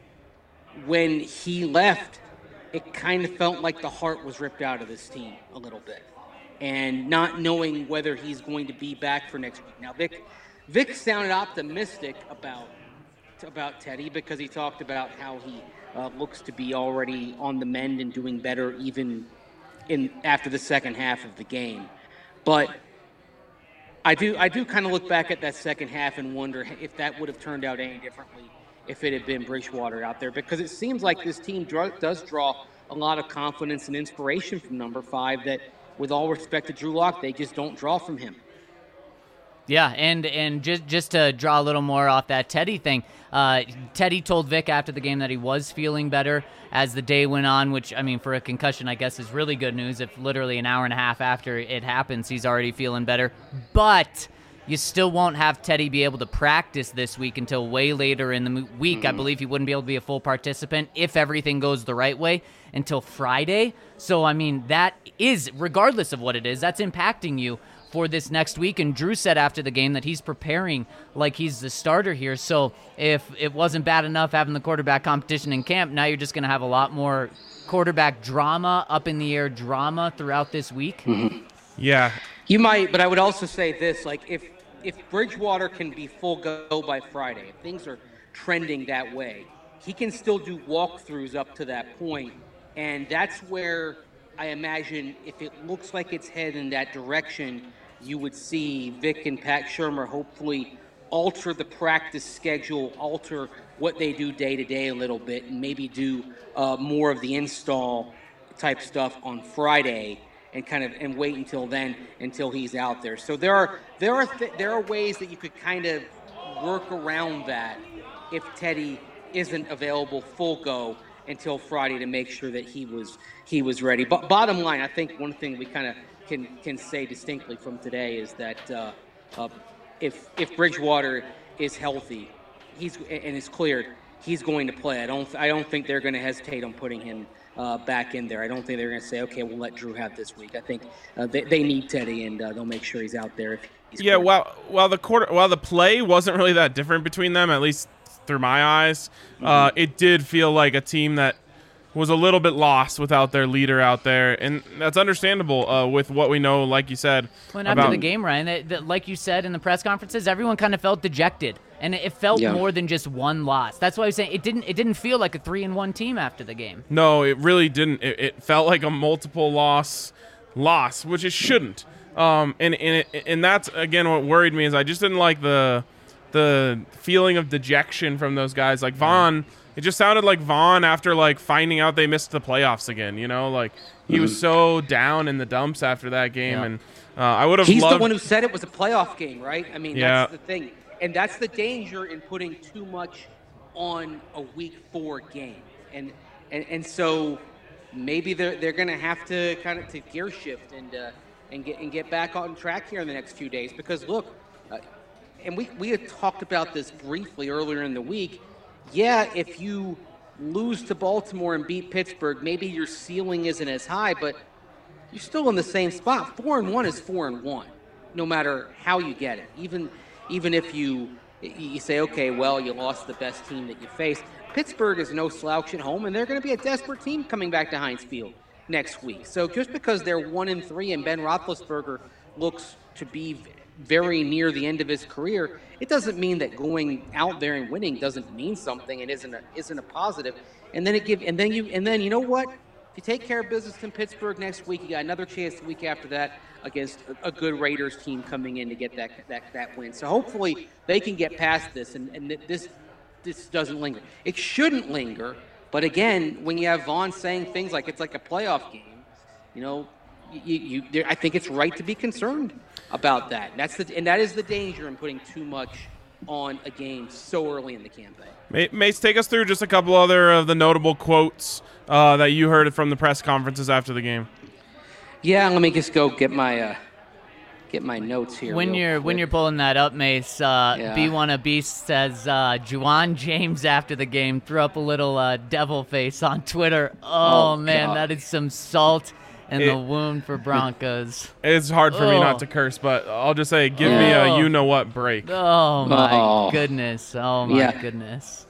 when he left, it kind of felt like the heart was ripped out of this team a little bit, and not knowing whether he's going to be back for next week. Now, Vic sounded optimistic about Teddy, because he talked about how he looks to be already on the mend and doing better even after the second half of the game. But I do kind of look back at that second half and wonder if that would have turned out any differently if it had been Bridgewater out there, because it seems like this team does draw a lot of confidence and inspiration from number 5 that, with all respect to Drew Lock, they just don't draw from him. Yeah, and just to draw a little more off that Teddy thing, Teddy told Vic after the game that he was feeling better as the day went on, which, I mean, for a concussion, I guess is really good news. If literally an hour and a half after it happens, he's already feeling better. But you still won't have Teddy be able to practice this week until way later in the week. I believe he wouldn't be able to be a full participant if everything goes the right way until Friday. So, I mean, that is, regardless of what it is, that's impacting you for this next week. And Drew said after the game that he's preparing like he's the starter here. So if it wasn't bad enough having the quarterback competition in camp, now you're just going to have a lot more quarterback drama, up in the air drama throughout this week. Yeah. You might, but I would also say this, like if Bridgewater can be full go by Friday, if things are trending that way, he can still do walkthroughs up to that point. And that's where I imagine, if it looks like it's headed in that direction, you would see Vic and Pat Shurmur hopefully alter the practice schedule, alter what they do day to day a little bit, and maybe do more of the install type stuff on Friday, and wait until then, until he's out there. So there are ways that you could kind of work around that if Teddy isn't available full go until Friday, to make sure that he was ready. But bottom line, I think one thing we kind of can say distinctly from today is that if Bridgewater is healthy, and is cleared, he's going to play. I don't think they're going to hesitate on putting him back in there. I don't think they're going to say, okay, we'll let Drew have this week. I think they need Teddy, and they'll make sure he's out there. If he's yeah, while the play wasn't really that different between them, at least through my eyes, it did feel like a team that was a little bit lost without their leader out there, and that's understandable with what we know, like you said. Well, after the game, Ryan, like you said in the press conferences, everyone kind of felt dejected, and it felt more than just one loss. That's why I was saying it didn't feel like a 3-1 team after the game. No, it really didn't. It felt like a multiple loss, which it shouldn't. And that's again what worried me, is I just didn't like the feeling of dejection from those guys. Like Vaughn, it just sounded like Vaughn after like finding out they missed the playoffs again. You know, like he was so down in the dumps after that game, and I would have. He's the one who said it was a playoff game, right? I mean, that's the thing, and that's the danger in putting too much on a Week 4 game, and so maybe they're going to have to kind of to gear shift and get back on track here in the next few days, because look. And we had talked about this briefly earlier in the week. Yeah, if you lose to Baltimore and beat Pittsburgh, maybe your ceiling isn't as high, but you're still in the same spot. 4-1 is 4-1, no matter how you get it. Even if you say, okay, well, you lost the best team that you faced. Pittsburgh is no slouch at home, and they're going to be a desperate team coming back to Heinz Field next week. So just because they're 1-3 and Ben Roethlisberger looks to be very near the end of his career, it doesn't mean that going out there and winning doesn't mean something and isn't a positive. And then you know what? If you take care of business in Pittsburgh next week, you got another chance the week after that against a good Raiders team coming in to get that win. So hopefully they can get past this and this doesn't linger. It shouldn't linger, but again, when you have Vaughn saying things like it's like a playoff game, you know, I think it's right to be concerned about that. And that is the danger in putting too much on a game so early in the campaign. Mace, take us through just a couple other of the notable quotes that you heard from the press conferences after the game. Yeah, let me just go get my notes here. When you're pulling that up, Mace, B1 of Beast says Juwan James after the game threw up a little devil face on Twitter. Oh man, God. that is some salt in the wound for Broncos. It's hard for me not to curse, but I'll just say, give me a you-know-what break. Oh my goodness! Oh my goodness!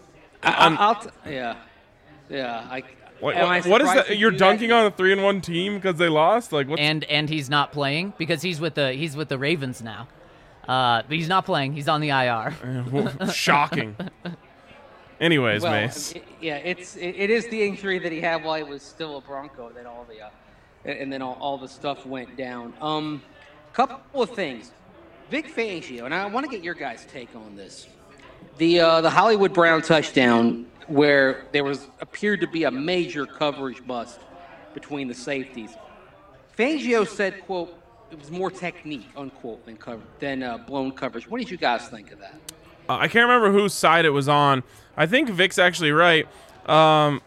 What is that? You're dunking on a 3-1 team because they lost? Like, what's... And he's not playing because he's with the Ravens now. But he's not playing. He's on the IR. Shocking. Anyways, Mace. It is the injury that he had while he was still a Bronco that all the stuff went down. Couple of things. Vic Fangio, and I want to get your guys' take on this. The Hollywood Brown touchdown, where there appeared to be a major coverage bust between the safeties. Fangio said, quote, it was more technique, unquote, than blown coverage. What did you guys think of that? I can't remember whose side it was on. I think Vic's actually right. I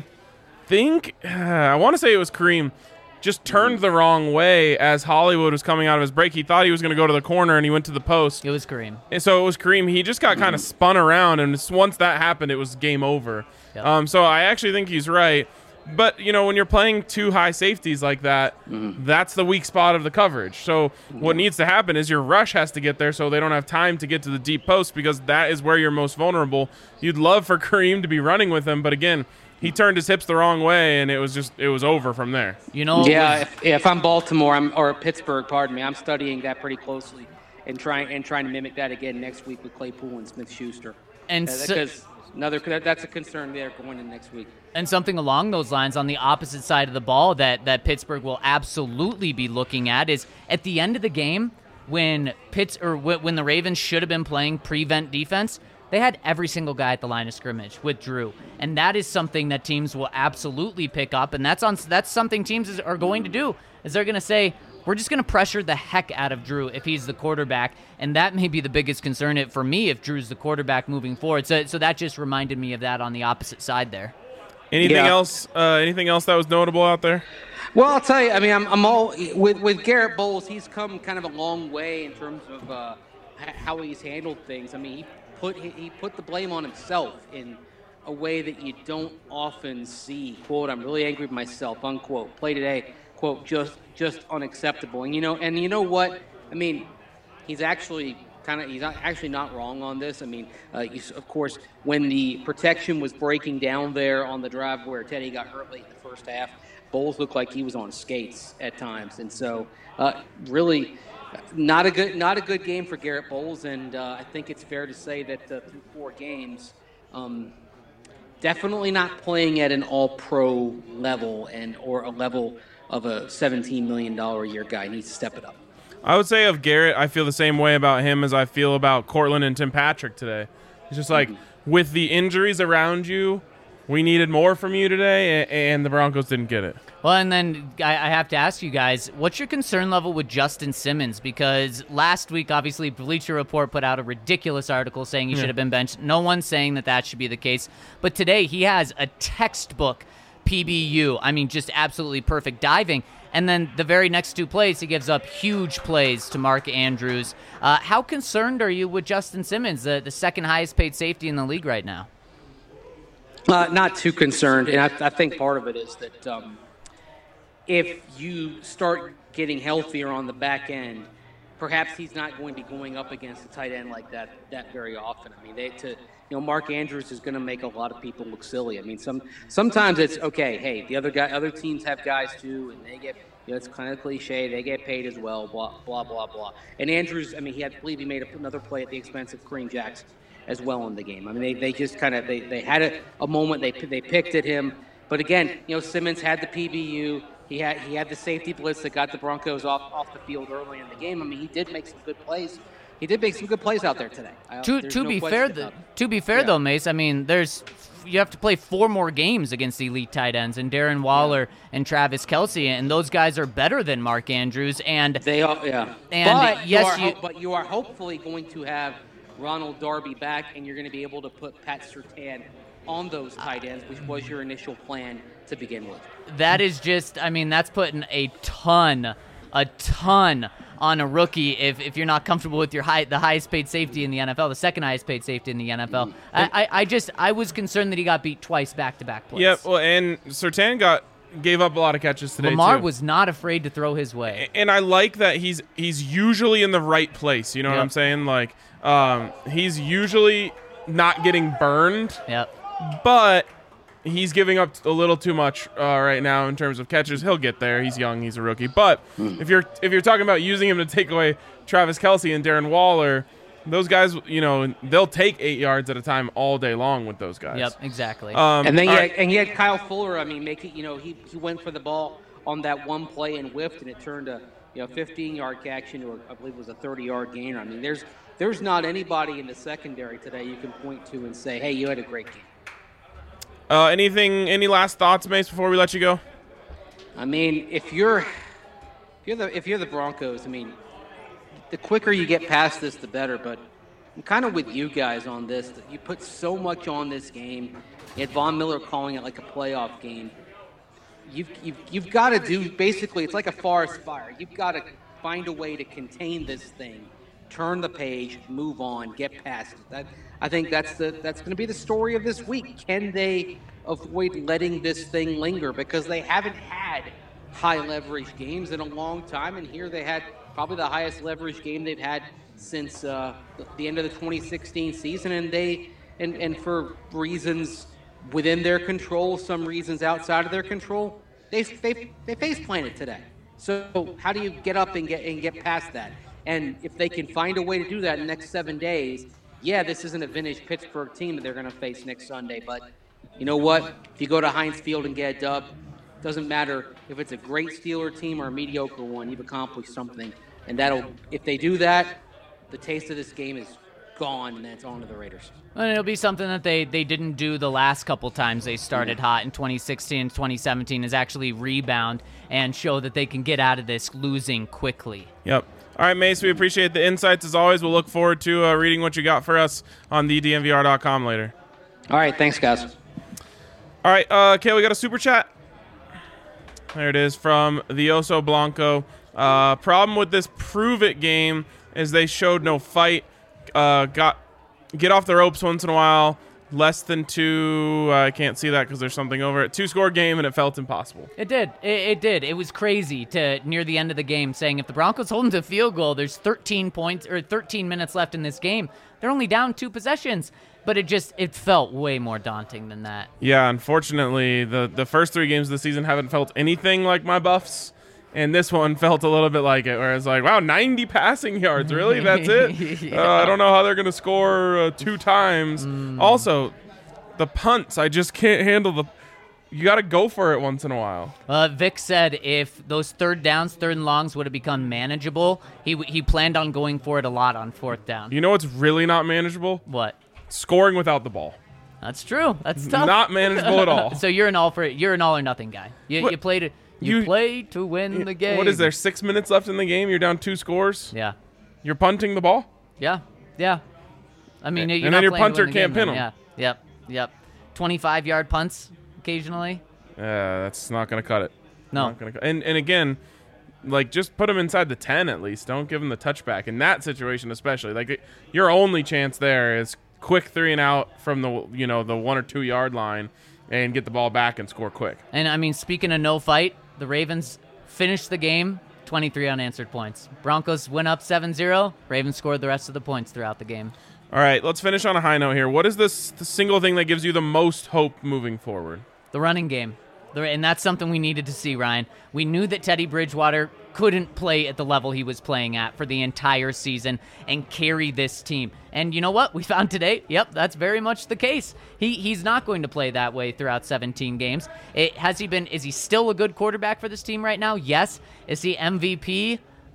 want to say it was Kareem. Just turned the wrong way as Hollywood was coming out of his break. He thought he was going to go to the corner, and he went to the post. It was Kareem. And so it was Kareem. He just got kind of spun around, and once that happened, it was game over. Yep. So I actually think he's right. But, when you're playing two high safeties like that, that's the weak spot of the coverage. So what needs to happen is your rush has to get there so they don't have time to get to the deep post because that is where you're most vulnerable. You'd love for Kareem to be running with him, but again, he turned his hips the wrong way, and it was over from there. If I'm Baltimore or Pittsburgh, pardon me, I'm studying that pretty closely and trying to mimic that again next week with Claypool and Smith-Schuster. Because that's a concern there going in next week. And something along those lines on the opposite side of the ball that Pittsburgh will absolutely be looking at is at the end of the game when the Ravens should have been playing prevent defense. They had every single guy at the line of scrimmage with Drew, and that is something that teams will absolutely pick up, and that's something teams are going to do, is they're going to say, we're just going to pressure the heck out of Drew if he's the quarterback, and that may be the biggest concern for me if Drew's the quarterback moving forward. So that just reminded me of that on the opposite side there. Anything else? Anything else that was notable out there? Well, I'll tell you. I mean, I'm all with Garrett Bowles. He's come kind of a long way in terms of how he's handled things. I mean, he put the blame on himself in a way that you don't often see. Quote, I'm really angry with myself, unquote. Play today, quote, just unacceptable. And you know what? I mean, he's actually not wrong on this. I mean, of course, when the protection was breaking down there on the drive where Teddy got hurt late in the first half, Bowles looked like he was on skates at times. And so really not a good game for Garrett Bowles, and I think it's fair to say that through 4 games, definitely not playing at an all-pro level or a level of a $17 million a year guy. He needs to step it up. I would say of Garrett, I feel the same way about him as I feel about Cortland and Tim Patrick today. It's just like, with the injuries around you, we needed more from you today, and the Broncos didn't get it. Well, and then I have to ask you guys, what's your concern level with Justin Simmons? Because last week, obviously, Bleacher Report put out a ridiculous article saying he should have been benched. No one's saying that should be the case. But today, he has a textbook PBU. I mean, just absolutely perfect diving. And then the very next 2 plays, he gives up huge plays to Mark Andrews. How concerned are you with Justin Simmons, the second highest paid safety in the league right now? Not too concerned, and I think part of it is that if you start getting healthier on the back end, perhaps he's not going to be going up against a tight end like that very often. I mean, Mark Andrews is going to make a lot of people look silly. I mean, sometimes it's okay. Hey, other teams have guys too, and they get. It's kind of cliche. They get paid as well. Blah blah blah blah. And Andrews, I mean, I believe he made another play at the expense of Kareem Jackson as well in the game. I mean, they just kind of they had a moment. They picked at him, but again, Simmons had the PBU. He had the safety blitz that got the Broncos off the field early in the game. I mean, he did make some good plays he did make some good plays out there today. To be fair, though, Mace, I mean, you have to play 4 more games against elite tight ends, and Darren Waller and Travis Kelce, and those guys are better than Mark Andrews. And they are, yeah. And but you are hopefully going to have Ronald Darby back, and you're going to be able to put Pat Surtain on those tight ends, which was your initial plan to begin with. That is just, I mean, that's putting a ton on a rookie if you're not comfortable with the highest paid safety in the NFL, the second highest paid safety in the NFL. I was concerned that he got beat twice back-to-back plays. Yeah, well, and Surtain gave up a lot of catches today, Lamar too. was not afraid to throw his way. And I like that he's usually in the right place, you know what I'm saying? Like, he's usually not getting burned. Yep. But he's giving up a little too much right now in terms of catches. He'll get there. He's young. He's a rookie. But if you're talking about using him to take away Travis Kelce and Darren Waller, those guys, you know, they'll take 8 yards at a time all day long with those guys. Yep, exactly. And then you had Kyle Fuller. I mean, he went for the ball on that one play and whiffed, and it turned a 15-yard catch into I believe it was a 30-yard gain. I mean, there's not anybody in the secondary today you can point to and say, hey, you had a great game. Any last thoughts, Mace, before we let you go? I mean, if you're the Broncos, I mean, the quicker you get past this, the better. But I'm kind of with you guys on this. That you put so much on this game. You had Von Miller calling it like a playoff game. You've got to do basically. It's like a forest fire. You've got to find a way to contain this thing, turn the page, move on, get past it. I think that's going to be the story of this week. Can they avoid letting this thing linger? Because they haven't had high leverage games in a long time, and here they had probably the highest leverage game they've had since the end of the 2016 season, and for reasons within their control, some reasons outside of their control, they face planted today. So how do you get up and get past that? And if they can find a way to do that in the next 7 days, yeah, this isn't a vintage Pittsburgh team that they're going to face next Sunday. But you know what? If you go to Heinz Field and get a dub, doesn't matter if it's a great Steeler team or a mediocre one. You've accomplished something. And if they do that, the taste of this game is gone, and that's on to the Raiders. And it'll be something that they didn't do the last couple times they started hot in 2016 and 2017 is actually rebound and show that they can get out of this losing quickly. Yep. All right, Mace, we appreciate the insights as always. We'll look forward to reading what you got for us on thednvr.com later. All right, thanks, guys. All right, okay, we got a super chat. There it is from the Oso Blanco. Problem with this Prove It game is they showed no fight. Get off the ropes once in a while. Less than 2. I can't see that because there's something over it. 2-score game, and it felt impossible. It did. It did. It was crazy to near the end of the game saying if the Broncos hold them to a field goal, there's 13 minutes left in this game. They're only down 2 possessions. But it felt way more daunting than that. Yeah, unfortunately, the first 3 games of the season haven't felt anything like my Buffs. And this one felt a little bit like it, where it's like, wow, 90 passing yards. Really? That's it? Yeah. I don't know how they're going to score 2 times. Also, the punts, I just can't handle you got to go for it once in a while. Vic said if those third and longs would have become manageable, he planned on going for it a lot on 4th down. You know what's really not manageable? What? Scoring without the ball. That's true. That's tough. Not manageable at all. So you're an all or nothing guy. You play to win the game. What is there, 6 minutes left in the game? You're down 2 scores? Yeah. You're punting the ball? Yeah. I mean, and then your punter can't pin them. Yeah. Yep. 25-yard punts occasionally. That's not going to cut it. No. Not gonna cut. And again, like, just put them inside the 10 at least. Don't give them the touchback. In that situation especially. Like, your only chance there is quick 3 and out from the 1 or 2 yard line and get the ball back and score quick. And, I mean, speaking of no fight, the Ravens finished the game 23 unanswered points. Broncos went up 7-0. Ravens scored the rest of the points throughout the game. All right, let's finish on a high note here. What is the single thing that gives you the most hope moving forward? The running game. And that's something we needed to see, Ryan. We knew that Teddy Bridgewater couldn't play at the level he was playing at for the entire season and carry this team. And you know what? We found today, yep, that's very much the case. He's not going to play that way throughout 17 games. Is he still a good quarterback for this team right now? Yes. Is he MVP?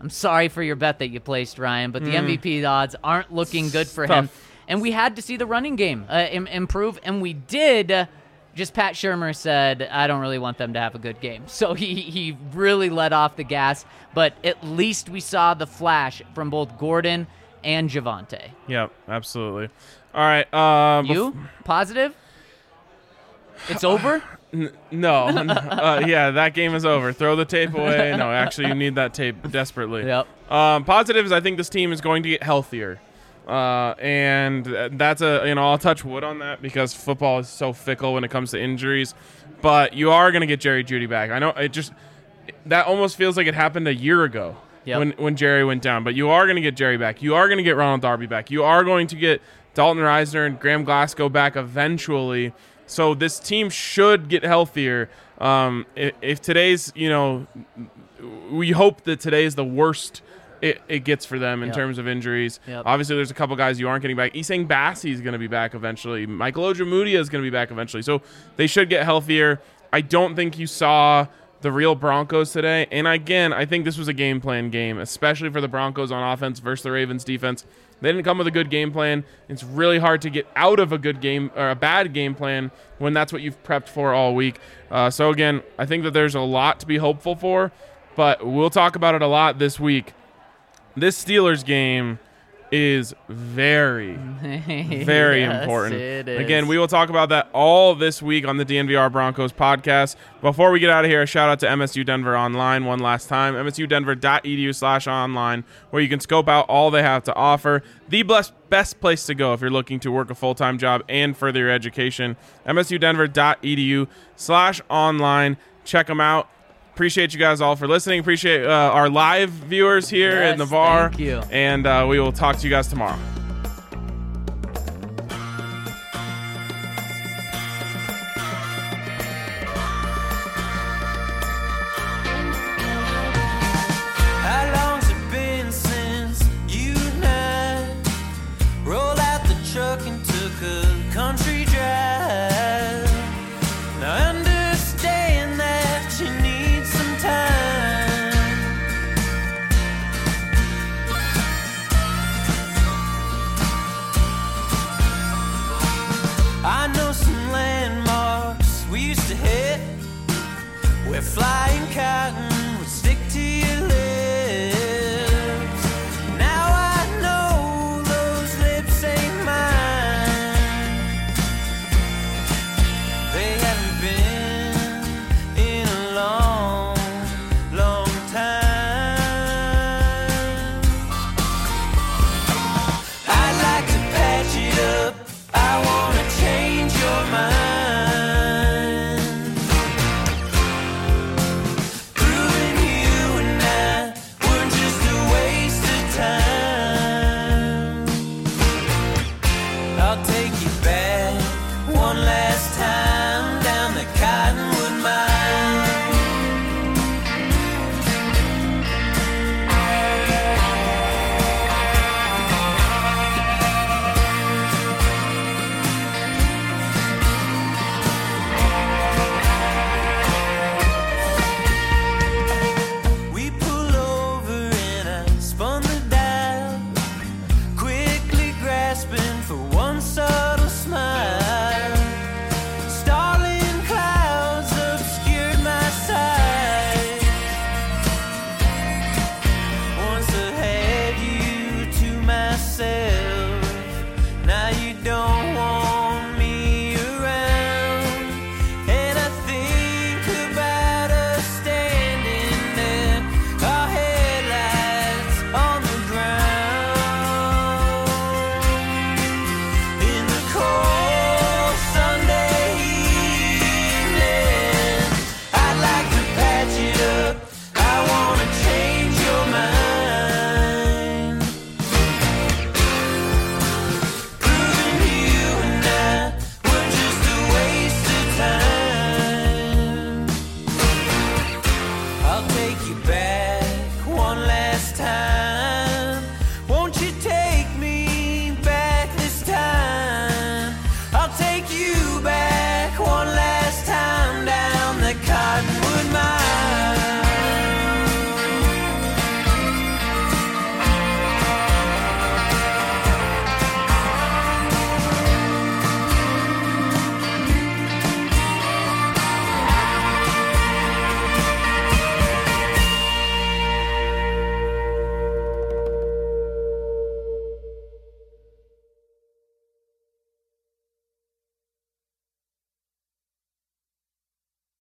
I'm sorry for your bet that you placed, Ryan, but the MVP odds aren't looking good for Tough. him. And we had to see the running game improve, and we did. Just Pat Shurmur said, I don't really want them to have a good game. So he really let off the gas, but at least we saw the flash from both Gordon and Javonte. Yep, absolutely. All right. You? Positive? It's over? No. Yeah, that game is over. Throw the tape away. No, actually, you need that tape desperately. Yep. Positives, I think this team is going to get healthier. And that's I'll touch wood on that because football is so fickle when it comes to injuries. But you are going to get Jerry Jeudy back. I know that almost feels like it happened a year ago. Yep. When Jerry went down. But you are going to get Jerry back. You are going to get Ronald Darby back. You are going to get Dalton Reisner and Graham Glasgow back eventually. So this team should get healthier. If today's, we hope that today is the worst it gets for them in terms of injuries. Yep. Obviously, there's a couple guys you aren't getting back. Isang Bassi is going to be back eventually. Michael Ojemudia is going to be back eventually. So they should get healthier. I don't think you saw the real Broncos today. And again, I think this was a game plan game, especially for the Broncos on offense versus the Ravens defense. They didn't come with a good game plan. It's really hard to get out of a good game or a bad game plan when that's what you've prepped for all week. So again, I think that there's a lot to be hopeful for, but we'll talk about it a lot this week. This Steelers game is very, very Yes, important. it is. Again, we will talk about that all this week on the DNVR Broncos podcast. Before we get out of here, a shout out to MSU Denver Online one last time, msudenver.edu/online, where you can scope out all they have to offer. The best place to go if you're looking to work a full-time job and further your education. msudenver.edu/online. Check them out. Appreciate you guys all for listening. Appreciate our live viewers here in the bar. Thank you. And we will talk to you guys tomorrow. How long's it been since you and I rolled out the truck and took a country drive? Now I understand that you need some time. I know some landmarks we used to hit where flying cotton would stick to your lips. Now I know those lips ain't mine. They haven't been in a long, long time. I'd like to patch it up. I wanna change your mind. Proving you and I were just a waste of time. I'll take you back one last time down the Cottonwood Mine. We pull over and I spun the dial, quickly grasping for one subtle smile. Starling clouds obscured my sight. Once I had you to myself.